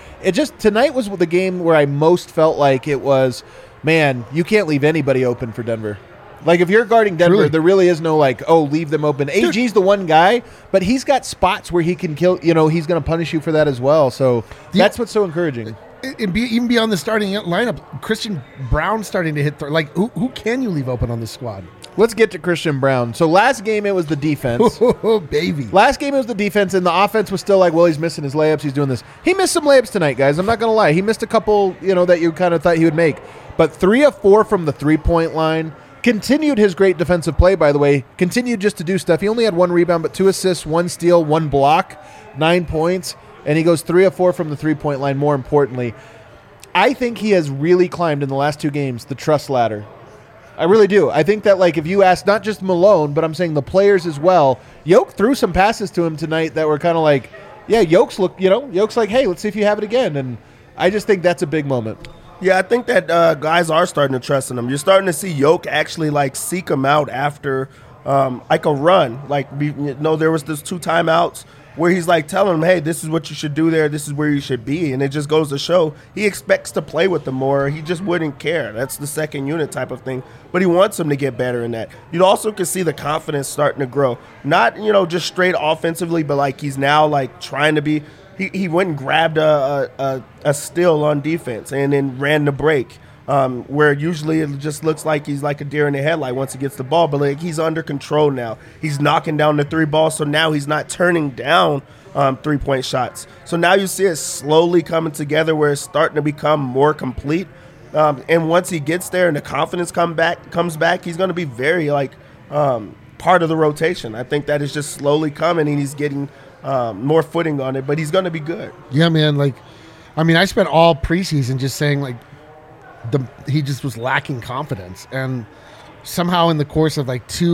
Tonight was the game where I most felt like it was, man, you can't leave anybody open for Denver. If you're guarding Denver, there really is no leave them open. AG's the one guy, but he's got spots where he can kill, he's going to punish you for that as well. So that's what's so encouraging. Even beyond the starting lineup, Christian Brown starting to hit. Who can you leave open on this squad? Let's get to Christian Brown. So last game it was the defense. Oh, baby. Last game it was the defense, and the offense was still well, he's missing his layups. He's doing this. He missed some layups tonight, guys. I'm not going to lie. He missed a couple, that you kind of thought he would make. But 3 of 4 from the 3-point line. Continued his great defensive play, by the way. Continued just to do stuff. He only had 1 rebound, but 2 assists, 1 steal, 1 block, 9 points. And he goes 3 of 4 from the 3-point line, more importantly. I think he has really climbed in the last 2 games the trust ladder. I really do. I think that, if you ask not just Malone, but I'm saying the players as well, Yoke threw some passes to him tonight that were kind of Yoke's Yoke's hey, let's see if you have it again. And I just think that's a big moment. Yeah, I think that guys are starting to trust in him. You're starting to see Yoke actually seek him out after like a run. Like, there was those 2 timeouts where he's like telling him, hey, this is what you should do there. This is where you should be. And it just goes to show he expects to play with them more. He just wouldn't care. That's the second unit type of thing. But he wants them to get better in that. You also can see the confidence starting to grow. Not, just straight offensively, but like he's now like trying to be. He went and grabbed a steal on defense and then ran the break. Where usually it just looks like he's like a deer in the headlight once he gets the ball, but like he's under control now. He's knocking down the 3 balls, so now he's not turning down 3-point shots. So now you see it slowly coming together where it's starting to become more complete. And once he gets there and the confidence comes back, he's going to be very part of the rotation. I think that is just slowly coming, and he's getting more footing on it, but he's going to be good. Yeah, man. I spent all preseason just saying he just was lacking confidence, and somehow in the course of 3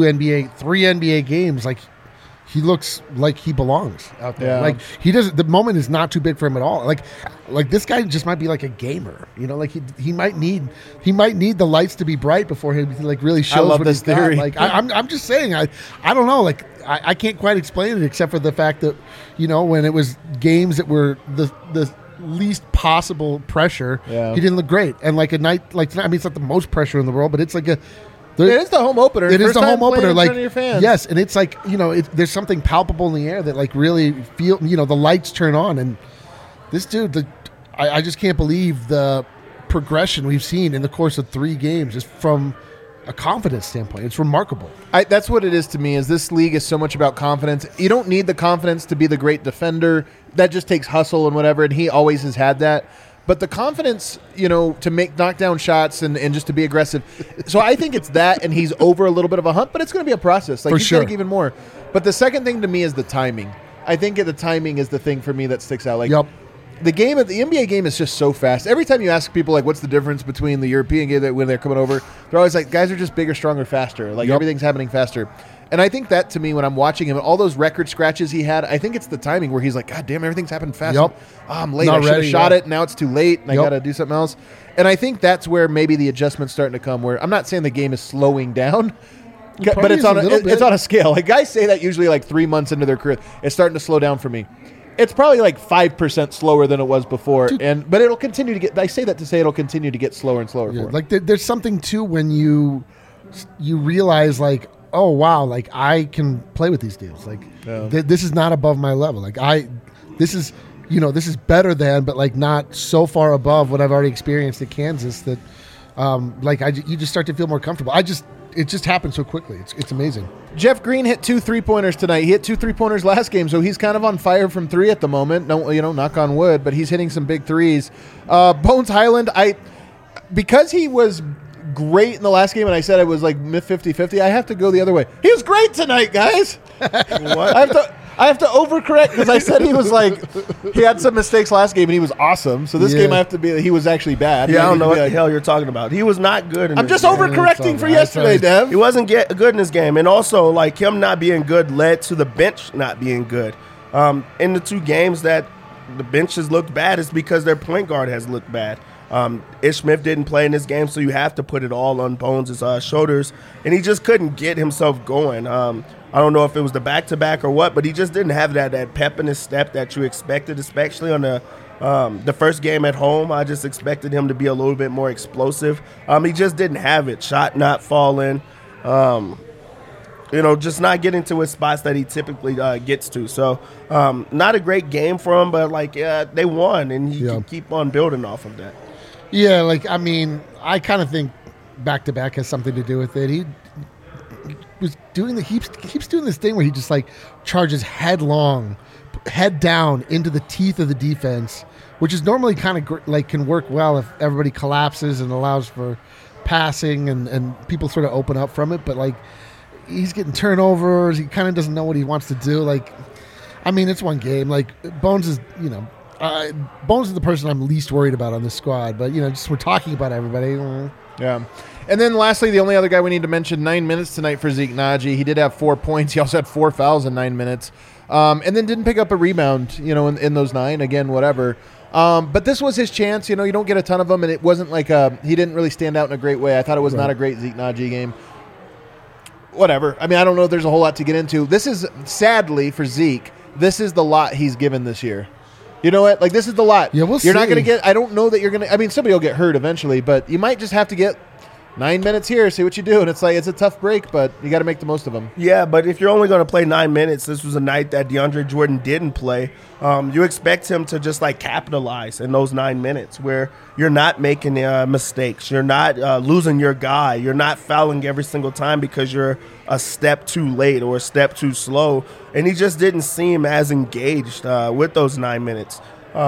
NBA games, he looks like he belongs out there. Yeah. He doesn't. The moment is not too big for him at all. Like this guy just might be like a gamer. He might need the lights to be bright before he really shows what he's got. I'm just saying. I don't know. I can't quite explain it except for the fact that when it was games that were the least possible pressure, he didn't look great. And a night like tonight, it's not the most pressure in the world, but it's it is the home opener. It is the home opener. In front of your fans. Yes, and it's there's something palpable in the air that really feel. The lights turn on, and this dude, I just can't believe the progression we've seen in the course of 3 games just from a confidence standpoint. It's remarkable. That's what it is to me. Is this league is so much about confidence. You don't need the confidence to be the great defender. That just takes hustle and whatever, and he always has had that. But the confidence, to make knockdown shots and just to be aggressive. So I think it's that, and he's over a little bit of a hump, but it's going to be a process. For he's sure. going to even more. But the second thing to me is the timing. I think the timing is the thing for me that sticks out. Yep. The NBA game is just so fast. Every time you ask people what's the difference between the European game when they're coming over, they're always like, guys are just bigger, stronger, faster. Everything's happening faster. And I think that to me, when I'm watching him, all those record scratches he had, I think it's the timing where he's like, God damn, everything's happened fast. Yep. Oh, I'm late. Not I should have ready, shot yeah. it. Now it's too late, and I got to do something else. And I think that's where maybe the adjustment's starting to come. Where I'm not saying the game is slowing down, but it's on a scale. Guys say that usually 3 months into their career, it's starting to slow down for me. It's probably 5% slower than it was before, but it'll continue to get. I say that to say it'll continue to get slower and slower. Yeah, there's something too when you realize oh wow, I can play with these dudes. This is not above my level. This is better than, but not so far above what I've already experienced at Kansas that you just start to feel more comfortable. It just happened so quickly. It's amazing. Jeff Green hit 2 3-pointers tonight. He hit 2 3-pointers last game, so he's kind of on fire from 3 at the moment. No, knock on wood, but he's hitting some big threes. Bones Hyland, because he was great in the last game, and I said it was 50-50, I have to go the other way. He was great tonight, guys. What? I have to overcorrect because I said he was he had some mistakes last game and he was awesome. So this game I have to be he was actually bad. Yeah, I don't know what the hell you're talking about. He was not good. I'm just overcorrecting for yesterday, Dev. He wasn't good in this game, and also him not being good led to the bench not being good. In the 2 games that the bench has looked bad is because their point guard has looked bad. Ish Smith didn't play in this game, so you have to put it all on Bones' shoulders, and he just couldn't get himself going. I don't know if it was the back-to-back or what, but he just didn't have that pep in his step that you expected, especially on the first game at home. I just expected him to be a little bit more explosive. He just didn't have it. Shot not falling. Just not getting to his spots that he typically gets to. So not a great game for him, but they won, and he can keep on building off of that. Yeah, I kind of think back-to-back has something to do with it. He was doing keeps doing this thing where he just charges headlong, head down into the teeth of the defense, which is normally kind of can work well if everybody collapses and allows for passing and people sort of open up from it. But he's getting turnovers. He kind of doesn't know what he wants to do. It's one game. Bones is Bones is the person I'm least worried about on this squad. But just we're talking about everybody. Yeah. And then lastly, the only other guy we need to mention, 9 minutes tonight for Zeke Naji. He did have 4 points. He also had 4 fouls in 9 minutes. And then didn't pick up a rebound, in those 9. Again, whatever. But this was his chance. You don't get a ton of them, and it wasn't he didn't really stand out in a great way. I thought it was not a great Zeke Naji game. whatever. I mean, I don't know if there's a whole lot to get into. This is, sadly for Zeke, this is the lot he's given this year. You know what? Like, this is the lot. Yeah, we'll You're not see. going to get, I don't know that you're going to, I mean, somebody will get hurt eventually, but you might just have to get 9 minutes here, see what you do. And it's like, it's a tough break, but you got to make the most of them. Yeah, but if you're only going to play 9 minutes, this was a night that DeAndre Jordan didn't play. You expect him to just like capitalize in those 9 minutes where you're not making mistakes. You're not losing your guy. You're not fouling every single time because you're a step too late or a step too slow. And he just didn't seem as engaged with those 9 minutes.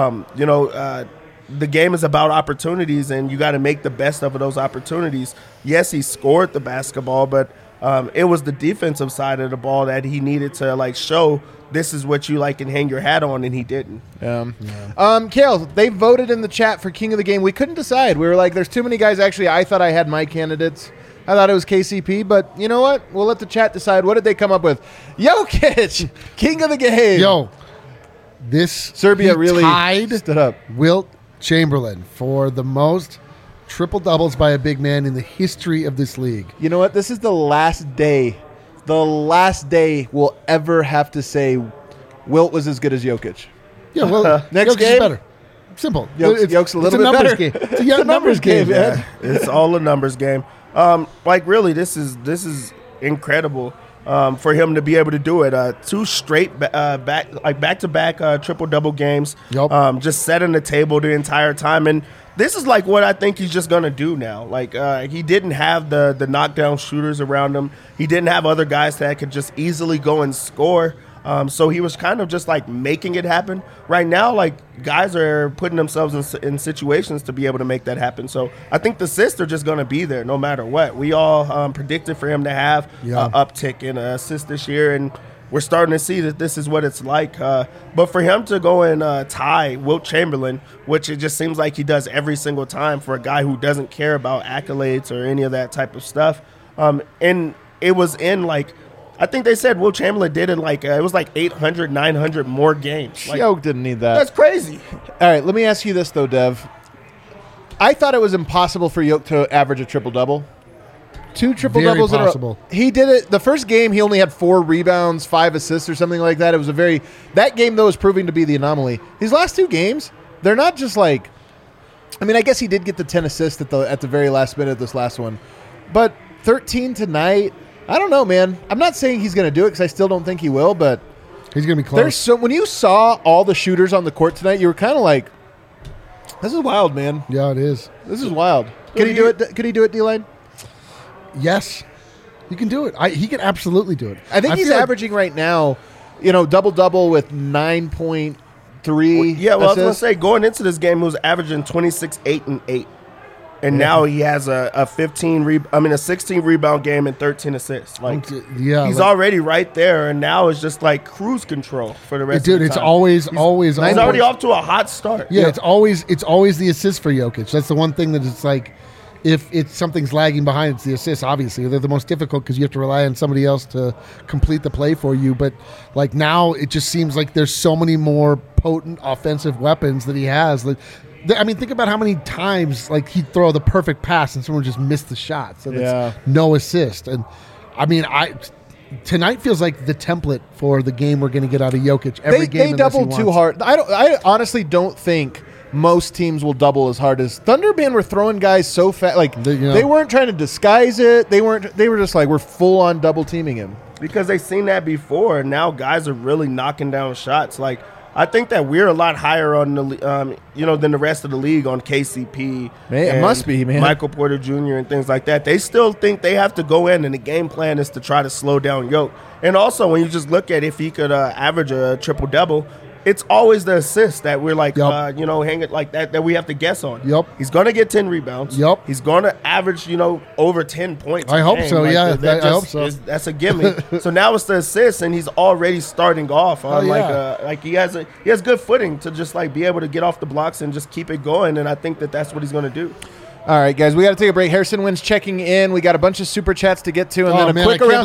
The game is about opportunities, and you got to make the best of those opportunities. Yes, he scored the basketball, but it was the defensive side of the ball that he needed to like show this is what you like and hang your hat on, and he didn't. Kale, they voted in the chat for King of the Game. We couldn't decide. We were like, there's too many guys. Actually, I thought I had my candidates. I thought it was KCP, but you know what? We'll let the chat decide. What did they come up with? Jokic, King of the Game. Yo, this Serbia he really tied stood up. Wilt Chamberlain for the most triple doubles by a big man in the history of this league. You know what? This is the last day we'll ever have to say Wilt was as good as Jokic. Yeah, well, Next Jokic's game? better. Simple. Jokic a little bit numbers better. game. It's a numbers game, man. It's all a numbers game. Really, this is incredible for him to be able to do it. 2 straight back-to-back triple-double games. Yep. Just setting the table the entire time. And this is like what I think he's just going to do now. Like he didn't have the knockdown shooters around him. He didn't have other guys that could just easily go and score. So he was kind of just like making it happen. Right now, like guys are putting themselves in situations to be able to make that happen. So I think the assists are just going to be there no matter what. We all predicted for him to have an uptick in assists this year, and we're starting to see that this is what it's like. But for him to go and tie Wilt Chamberlain, which it just seems like he does every single time for a guy who doesn't care about accolades or any of that type of stuff, and it was in like, I think they said Wilt Chamberlain did it like it was like 800, 900 more games. Like, Jokic didn't need that. that's crazy. All right, let me ask you this, though, Dev. I thought it was impossible for Jokic to average a triple-double. 2 triple-doubles in a row. He did it. The first game, he only had 4 rebounds, 5 assists or something like that. It was that game, though, is proving to be the anomaly. These last 2 games, they're not just like, I mean, I guess he did get the 10 assists at the very last minute of this last one. But 13 tonight, I don't know, man. I'm not saying he's going to do it because I still don't think he will, but He's going to be close. when you saw all the shooters on the court tonight, you were kind of like, this is wild, man. Yeah, it is. This is wild. Could he do it? Could he do it, D-Line? Yes. He can do it. He can absolutely do it. I think he's feel like- averaging right now, double-double with 9.3 Yeah, well, I was going to assists. say, going into this game, he was averaging 26, 8, and 8. And now he has a 16 rebound game and 13 assists. Like, Yeah, he's like- already right there, and now it's just like cruise control for the rest of Dude, the it's time. always. He's already off to a hot start. Yeah, it's always the assist for Jokic. That's the one thing that it's like, if it's something's lagging behind, it's the assists. Obviously, they're the most difficult because you have to rely on somebody else to complete the play for you. But like now, it just seems like there's so many more potent offensive weapons that he has. Like, I mean, think about how many times like he'd throw the perfect pass and someone just missed the shot. So that's no assist. And I mean, tonight feels like the template for the game we're going to get out of Jokic every game. They doubled too hard. I honestly don't think most teams will double as hard as Thunderband were throwing guys so fast. Like they weren't trying to disguise it. They were just like, we're full on double teaming him because they've seen that before. And now guys are really knocking down shots. Like, I think that we're a lot higher on the than the rest of the league on KCP. Man, it must be, man. Michael Porter Jr. and things like that. They still think they have to go in, and the game plan is to try to slow down Jokic. And also, when you just look at if he could average a triple double, it's always the assist that we're like, hang it like that we have to guess on. Yep. He's going to get 10 rebounds. Yep. He's going to average, over 10 points. I hope so, Like, yeah. I hope so. That's a gimme. So now it's the assist, and he's already starting off on like he has good footing to just like be able to get off the blocks and just keep it going. And I think that's what he's going to do. All right, guys, we got to take a break. Harrison Wins checking in. We got a bunch of super chats to get to, and then a quick around.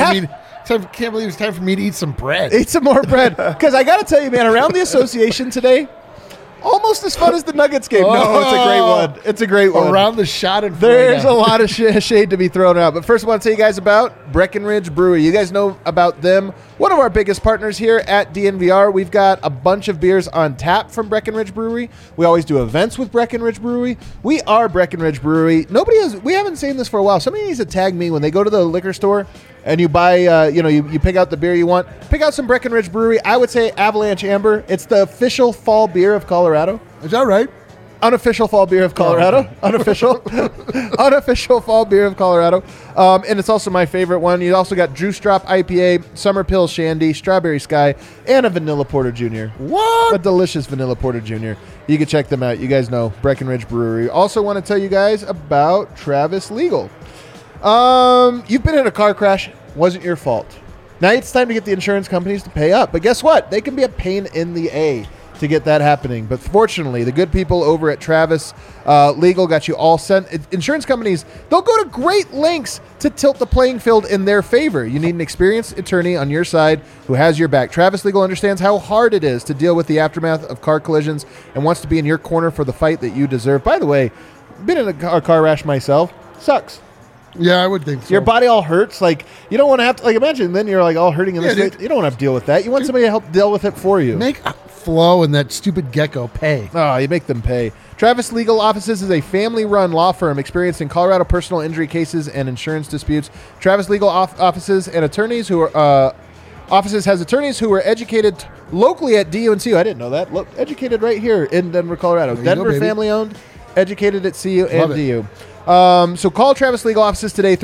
Can't believe it's time for me to eat some bread. Eat some more bread. Because I got to tell you, man, around the association today, Almost as fun as the Nuggets game. No, it's a great one. It's a great one. Around the shot and There's a lot of shade to be thrown out. But first I want to tell you guys about Breckenridge Brewery. You guys know about them. One of our biggest partners here at DNVR. We've got a bunch of beers on tap from Breckenridge Brewery. We always do events with Breckenridge Brewery. We are Breckenridge Brewery. We haven't seen this for a while. Somebody needs to tag me when they go to the liquor store and you buy, you pick out the beer you want. Pick out some Breckenridge Brewery. I would say Avalanche Amber. It's the official fall beer of Colorado. Is that right? Unofficial fall beer of Colorado. Unofficial fall beer of Colorado. And it's also my favorite one. You also got Juice Drop IPA, Summer Pill Shandy, Strawberry Sky, and a Vanilla Porter Jr. What? A delicious Vanilla Porter Jr. You can check them out. You guys know Breckenridge Brewery. Also want to tell you guys about Travis Legal. You've been in a car crash. Wasn't your fault. Now it's time to get the insurance companies to pay up. But guess what? They can be a pain in the A to get that happening. But fortunately, the good people over at Travis Legal got you all sent. Insurance companies, they'll go to great lengths to tilt the playing field in their favor. You need an experienced attorney on your side who has your back. Travis Legal understands how hard it is to deal with the aftermath of car collisions and wants to be in your corner for the fight that you deserve. By the way, been in a car crash myself. Sucks. Yeah, I would think so. Your body all hurts. Like, you don't want to have to, imagine then you're like all hurting in this. Dude. You don't want to have to deal with that. You want somebody to help deal with it for you. Make Flo and that stupid gecko pay. Oh, you make them pay. Travis Legal Offices is a family-run law firm experienced in Colorado personal injury cases and insurance disputes. Travis Legal Offices and attorneys who are offices has attorneys who were educated locally at DU and CU. I didn't know that. Educated right here in Denver, Colorado. Denver family-owned, educated at CU and DU. So call Travis Legal Offices today,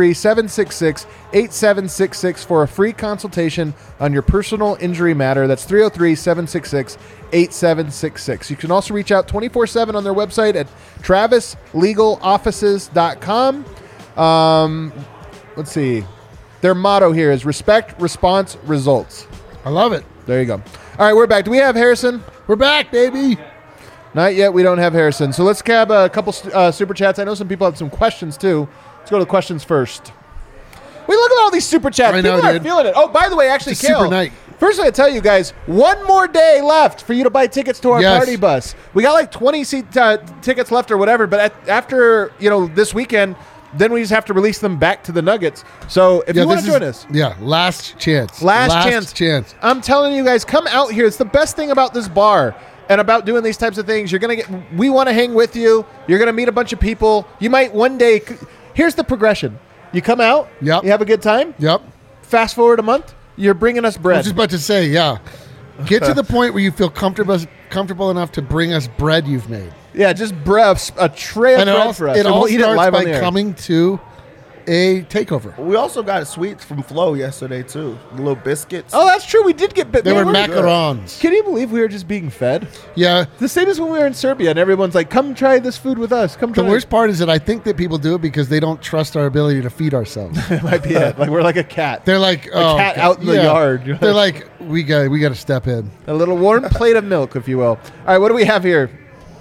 303-766-8766 for a free consultation on your personal injury matter. That's 303-766-8766. You can also reach out 24/7 on their website at travislegaloffices.com. Let's see. Their motto here is respect, response, results. I love it. There you go. All right, we're back. Do we have Harrison? We're back, baby. Not yet. We don't have Harrison. So let's grab a couple super chats. I know some people have some questions, too. Let's go to the questions first. We look at all these super chats. I know, people are dude. feeling it. Oh, by the way, actually, It's a super Kale, night. first I tell you guys, one more day left for you to buy tickets to our Yes. party bus. We got like 20 seat tickets left or whatever, but after this weekend, then we just have to release them back to the Nuggets. So if you want to join us. Yeah, last chance. Last chance. I'm telling you guys, come out here. It's the best thing about this bar and about doing these types of things. We want to hang with you. You're going to meet a bunch of people. You might one day, here's the progression. You come out. Yep. You have a good time. Yep. Fast forward a month. You're bringing us I bread. was just about to say, yeah. Get to the point where you feel comfortable enough to bring us bread you've made. Yeah, just a tray of bread for us. It and all we'll eat it starts live on by the air. coming to a takeover. We also got sweets from Flo yesterday, too. The little biscuits. Oh, that's true. We did get They were good. macarons. Can you believe we were just being fed? Yeah. The same as when we were in Serbia and everyone's like, come try this food with us. Come try The worst part is that I think that people do it because they don't trust our ability to feed ourselves. it. Might be it. Like we're like a cat. They're like, oh, cat God. out in the yard. You're They're like, we got to step in. A little warm plate of milk, if you will. All right, what do we have here?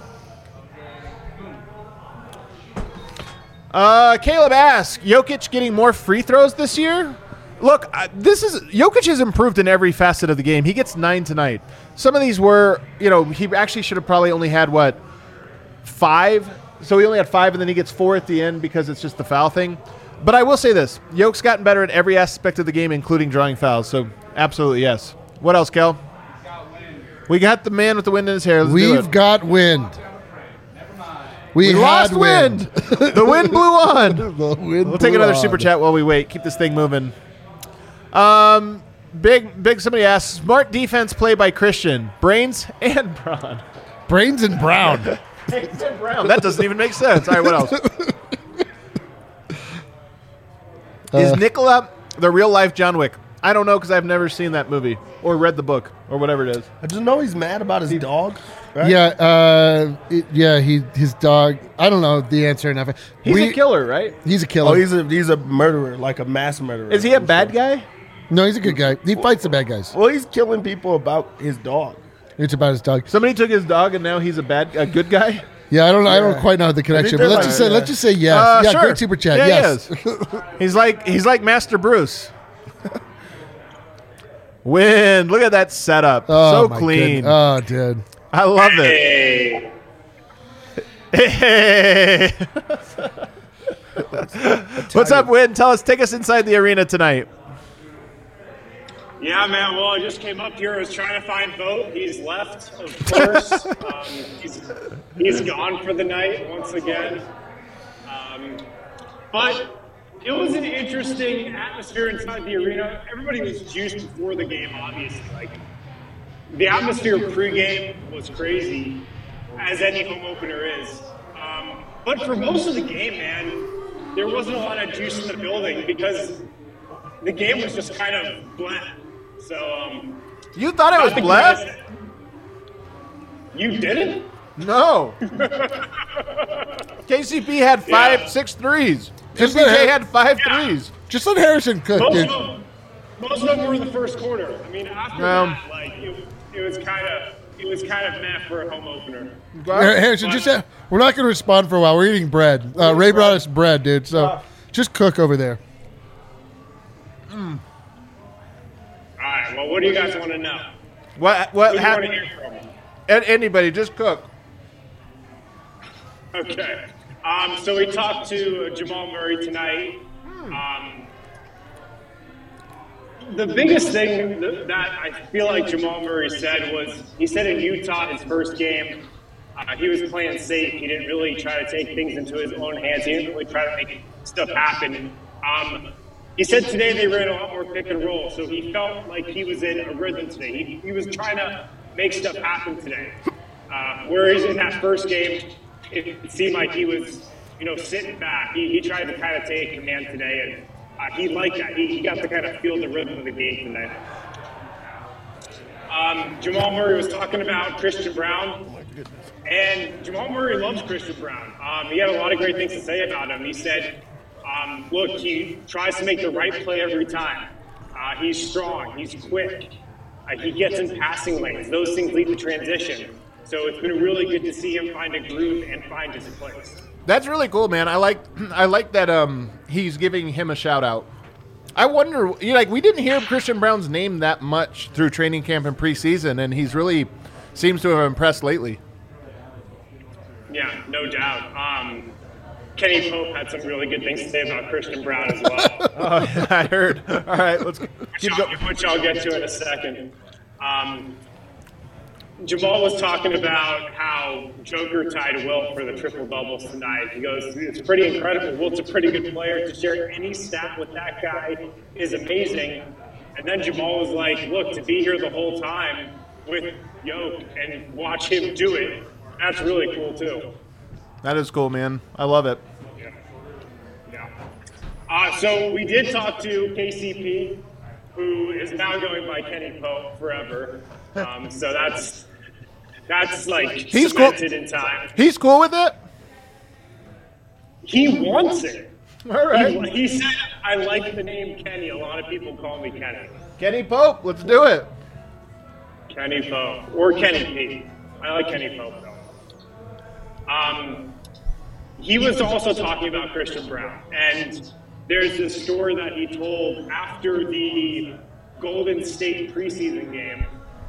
Caleb asks, Jokic getting more free throws this year? Look, Jokic has improved in every facet of the game. He gets 9 tonight. Some of these were, he actually should have probably only had, 5? So he only had 5, and then he gets 4 at the end because it's just the foul thing. But I will say this. Jokic's gotten better at every aspect of the game, including drawing fouls. So absolutely, yes. What else, Kel? We got the man with the wind in his hair. Let's do We've it. got wind. We lost wind. The wind blew on. We'll take another super chat. chat while we wait. Keep this thing moving. Big. Somebody asks, smart defense play by Christian. Brains and Braun. Brains and Brown. Brains and Brown. That doesn't even make sense. All right, what else? Is Nicola the real life John Wick? I don't know because I've never seen that movie or read the book or whatever it is. I just know he's mad about his dog. Right? Yeah, his dog. I don't know the answer enough. He's a killer, right? He's a killer. Oh, he's a murderer, like a mass murderer. Is he a bad guy? No, he's a good guy. He fights the bad guys. Well, he's killing people about his dog. It's about his dog. Somebody took his dog and now he's a good guy? Yeah, I don't quite know the connection, but they're let's like- just say yes. Sure. Great super chat. Yeah, yes. he is. He's like Master Bruce. Wind. Look at that setup. Oh, So my clean. goodness. Oh, dude. I love it. Hey. What's up, Win? Take us inside the arena tonight. Yeah, man. Well, I just came up here. I was trying to find Vogt. He's left, of course. He's gone for the night once again. But it was an interesting atmosphere inside the arena. Everybody was juiced before the game, obviously. Like, the atmosphere pregame was crazy, as any home opener is. But for most of the game, man, there wasn't a lot of juice in the building because the game was just kind of bland. So, you thought it was bland? You didn't? No. KCP had 6 threes. MPJ had 5 threes. Just let Harrison cook, dude. Most of them were in the first quarter. I mean, after that, like it was kind of meh for a home opener. Harrison, we're not going to respond for a while. We're eating bread. Ray brought us bread, dude. So just cook over there. All right. Well, what do you guys want to know? What happened? Want to hear from? Anybody, just cook. Okay. So we talked to Jamal Murray tonight. The biggest thing that I feel like Jamal Murray said was, he said in Utah, his first game, he was playing safe. He didn't really try to take things into his own hands. He didn't really try to make stuff happen. He said today they ran a lot more pick and roll, so he felt like he was in a rhythm today. He was trying to make stuff happen today. Whereas in that first game, it seemed like he was, sitting back. He tried to kind of take command today, and he liked that. He got to kind of feel the rhythm of the game tonight. Jamal Murray was talking about Christian Braun, and Jamal Murray loves Christian Braun. He had a lot of great things to say about him. He said, look, he tries to make the right play every time. He's strong. He's quick. He gets in passing lanes. Those things lead to transition. So it's been really good to see him find a groove and find his place. That's really cool, man. I like that he's giving him a shout out. I wonder, we didn't hear Christian Braun's name that much through training camp and preseason, and he's really seems to have impressed lately. Yeah, no doubt. Kenny Pope had some really good things to say about Christian Braun as well. Oh, I heard. All right, let's keep going. Which I'll get to in a second. Jamal was talking about how Joker tied Wilt for the triple-doubles tonight. He goes, it's pretty incredible. Wilt's a pretty good player. To share any stat with that guy is amazing. And then Jamal was like, look, to be here the whole time with Yoke and watch him do it, that's really cool, too. That is cool, man. I love it. Yeah. So we did talk to KCP, who is now going by Kenny Pope forever. So that's like he's cemented in time. He's cool with it? He wants it. All right. He said, I like the name Kenny. A lot of people call me Kenny. Kenny Pope, let's do it. Kenny Pope. Or Kenny P. I like Kenny Pope, though. He was also talking about Christian Braun. And there's this story that he told after the Golden State preseason game.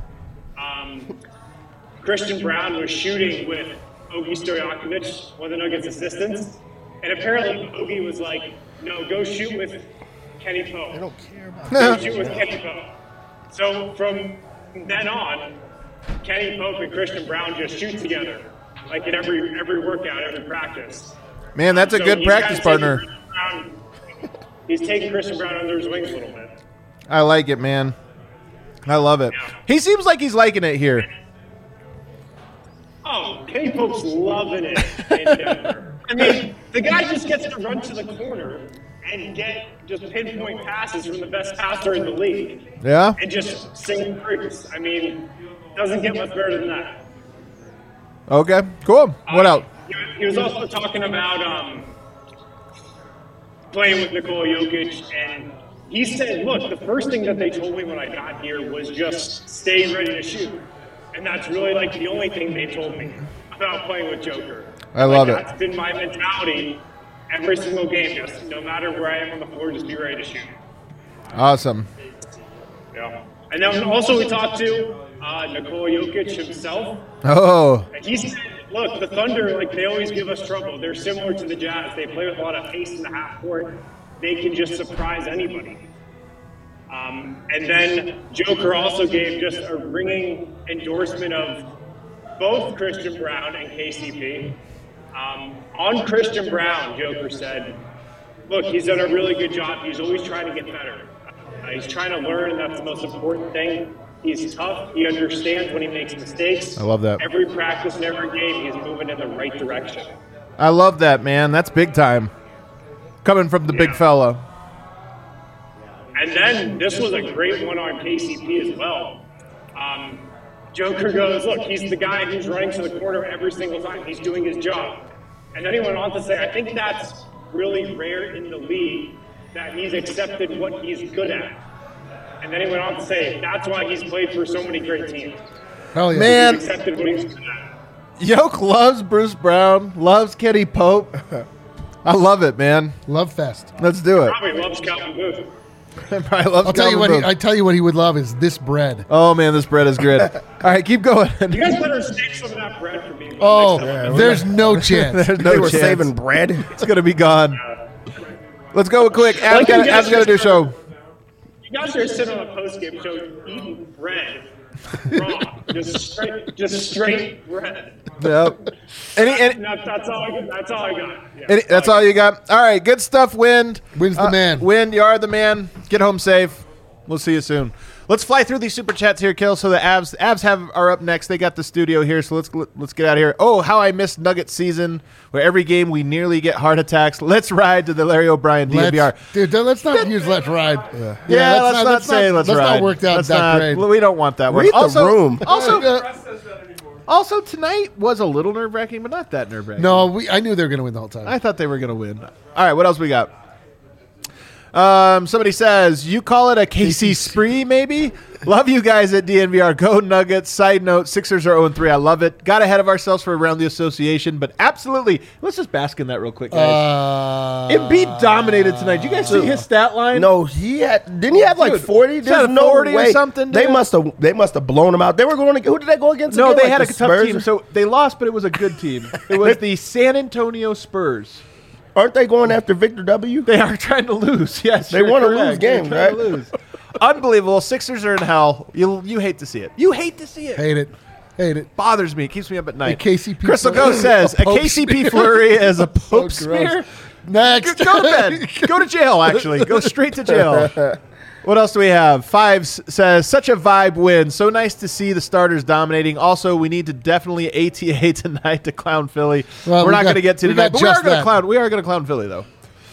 Christian Braun was shooting with Ogi Stojakovic, one of the Nuggets' assistants, and apparently Ogi was like, no, go shoot with Kenny Pope. I don't care about Go shoot with Kenny Pope. So from then on, Kenny Pope and Christian Braun just shoot together, like in every workout, every practice. Man, that's a good practice partner. He's taking Christian Braun under his wings a little bit. I like it, man. I love it. Yeah. He seems like he's liking it here. Oh, Kenny Pope's loving it in Denver. I mean, the guy just gets to run to the corner and get just pinpoint passes from the best passer in the league. Yeah? And just sing praise. I mean, doesn't get much better than that. Okay, cool. What else? He was also talking about playing with Nikola Jokic, and he said, look, the first thing that they told me when I got here was just stay ready to shoot. And that's really like the only thing they told me about playing with Joker. I love it. That's been my mentality every single game. Just no matter where I am on the floor, just be ready to shoot. Awesome. Yeah. And then also we talked to Nikola Jokic himself. Oh. And he said, look, the Thunder, like, they always give us trouble. They're similar to the Jazz. They play with a lot of pace in the half court. They can just surprise anybody. And then Joker also gave just a ringing endorsement of both Christian Braun and KCP. On Christian Braun, Joker said, look, he's done a really good job. He's always trying to get better. He's trying to learn. That's the most important thing. He's tough. He understands when he makes mistakes. I love that. Every practice and every game, he's moving in the right direction. I love that, man. That's big time. Coming from the big fella. And then this was a great one on KCP as well. Joker goes, look, he's the guy who's running to the corner every single time. He's doing his job. And then he went on to say, I think that's really rare in the league that he's accepted what he's good at. And then he went on to say, that's why he's played for so many great teams. Hell yeah. Man, He's accepted what he's good at. Yoke loves Bruce Brown, loves Kenny Pope. I love it, man. Love fest. Let's do it. Probably loves Calvin Booth. Probably loves I'll tell you Calvin what. Booth. I tell you what he would love is this bread. Oh, man, this bread is good. All right, keep going. You guys better save some of that bread for me. for the Oh, next time. there's no chance. There's They no were chance. saving bread. It's going to be gone. Let's go quick. Ab's Like got to do a show. You guys are sitting on a post-game show eating bread. Raw. just straight bread. Yep. That's all I got. Yeah. That's all you got? All right, good stuff, Wind. Wind's the man. Wind, you are the man. Get home safe. We'll see you soon. Let's fly through these super chats here, Kill. So the Avs are up next. They got the studio here, so let's get out of here. Oh, how I missed Nuggets season, where every game we nearly get heart attacks. Let's ride to the Larry O'Brien DNVR. Dude, let's not use let's ride. Yeah, let's not say let's ride. Let's not work out Let's that not- great. We don't want that one. Read the room. Also, tonight was a little nerve-wracking, but not that nerve-wracking. No, I knew they were going to win the whole time. I thought they were going to win. All right, what else we got? Somebody says, you call it a KC spree, maybe? Love you guys at DNVR. Go Nuggets. Side note, Sixers are 0-3. I love it. Got ahead of ourselves for around the association, but absolutely. Let's just bask in that real quick, guys. Embiid dominated tonight. Did you guys see his stat line? No, didn't he have like Dude, 40? he had There's no 40 or way. something, They dude. must have blown him out. They were going to, who did they go against? No, again? they Like had a the tough Spurs? team. So they lost, but it was a good team. It was the San Antonio Spurs. Aren't they going after Victor W? They are trying to lose. Yes, They you're wanna correct. lose games, They're trying right? to lose. Unbelievable. Sixers are in hell. You hate to see it. You hate to see it. Hate it. Bothers me. It keeps me up at night. KCP Crystal flurry. Ghost says a Pope KCP smear. flurry is a Pope So smear. gross. Next. Go to bed. Go to jail, actually. Go straight to jail. What else do we have? Fives says, such a vibe win. So nice to see the starters dominating. Also, we need to definitely ATA tonight to clown Philly. Well, We're we not got- going to get to we tonight, got but we are just going to that. clown. We are going to clown Philly, though.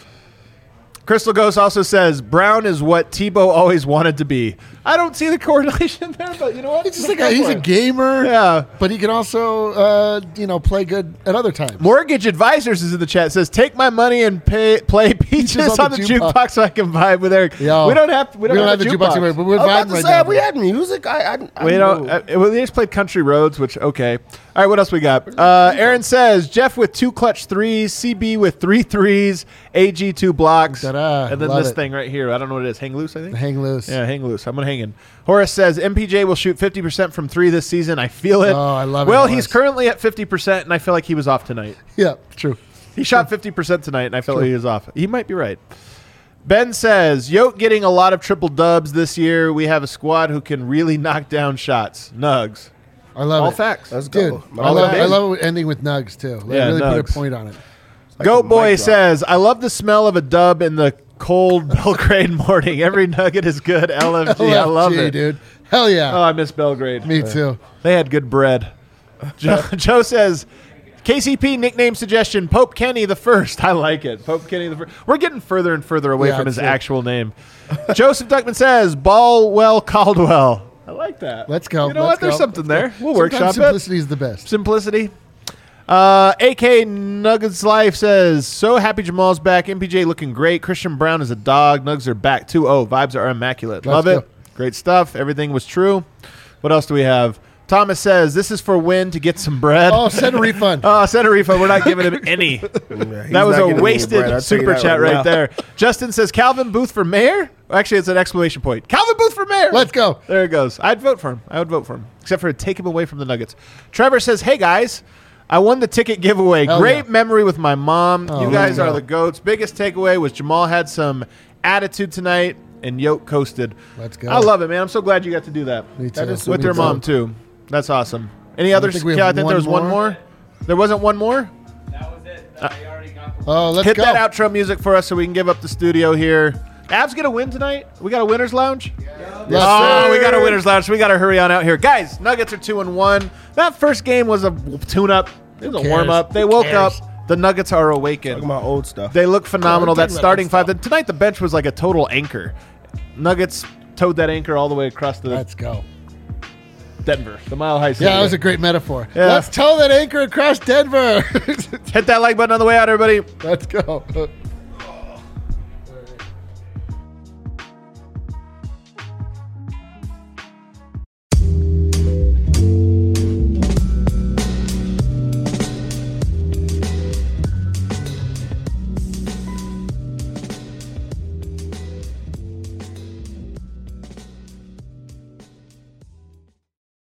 Crystal Ghost also says, Brown is what Tebow always wanted to be. I don't see the correlation there, but you know what? He's just he's a gamer. Yeah. But he can also, play good at other times. Mortgage Advisors is in the chat. Says, take my money and play Peaches on the jukebox so I can vibe with Eric. Yo, we don't have the jukebox. but we're I was about vibing to right say, now. have we had music? I We don't. Well, they just played Country Roads, which okay. All right, what else we got? Aaron says Jeff with 2 clutch threes, CB with 3 threes, AG 2 blocks, Ta-da. and then Love this it. thing right here. I don't know what it is. Hang loose, I think. Hang loose. Yeah, hang loose. I'm gonna hang in. Horace says MPJ will shoot 50% from 3 this season. I feel it. Oh, I love it, Well, Horace. he's currently at 50%, and I feel like he was off tonight. Yeah, true. He shot 50% tonight, and I felt like he was off. He might be right. Ben says, Yoke getting a lot of triple dubs this year. We have a squad who can really knock down shots. Nugs. I love All it. facts. Let's Dude, go. I love Nugs. it ending with Nugs, too. They Yeah, really put Nugs. a point on it. Goat a Boy mic drop. says, I love the smell of a dub in the cold Belgrade morning. Every nugget is good. LFG. I love LFG, it. dude. Hell yeah. Oh, I miss Belgrade. Me too. They had good bread. Joe says, KCP nickname suggestion, Pope Kenny the First. I like it. Pope Kenny the First. We're getting further and further away Yeah, from his it's it. actual name. Joseph Duckman says, Ballwell Caldwell. I like that. Let's go. You know Let's what? There's go. something there. We'll Sometimes workshop it. simplicity is the best. Simplicity. AK Nuggets Life says, so happy Jamal's back. MPJ looking great. Christian Brown is a dog. Nugs are back 2-0. Vibes are immaculate. Let's Love it. go. Great stuff. Everything was true. What else do we have? Thomas says, this is for Win to get some bread. Oh, send a refund. Send a refund. We're not giving him any. That was a wasted super chat right there. Justin says, Calvin Booth for mayor? Actually, it's an exclamation point. Calvin Booth for mayor. Let's go. There it goes. I'd vote for him. I would vote for him, except for to take him away from the Nuggets. Trevor says, "Hey guys, I won the ticket giveaway. Hell Great yeah. memory with my mom. Oh, you guys there you are go. the goats. Biggest takeaway was Jamal had some attitude tonight, and Yoke coasted. Let's go. I love it, man. I'm so glad you got to do that. Me too. With Me your too. mom too. That's awesome. Any others? think we Yeah, I have think one there was one more. more. There wasn't one more. That was it. I already got the Oh, let's Hit go. that outro music for us so we can give up the studio here. Avs get a win tonight? We got a winner's lounge? Yes, Oh, sir. we got a winner's lounge, so we got to hurry on out here. Guys, Nuggets are 2-1. That first game was a tune-up. It was a cares? warm-up. They Who woke cares? up. The Nuggets are awakened. Talking about old stuff. They look phenomenal. Yeah, we're That talking starting about five. Tonight, the bench was like a total anchor. Nuggets towed that anchor all the way across the Let's go. Denver, the Mile High City. Yeah, that was a great metaphor. Yeah. Let's tow that anchor across Denver. Hit that like button on the way out, everybody. Let's go.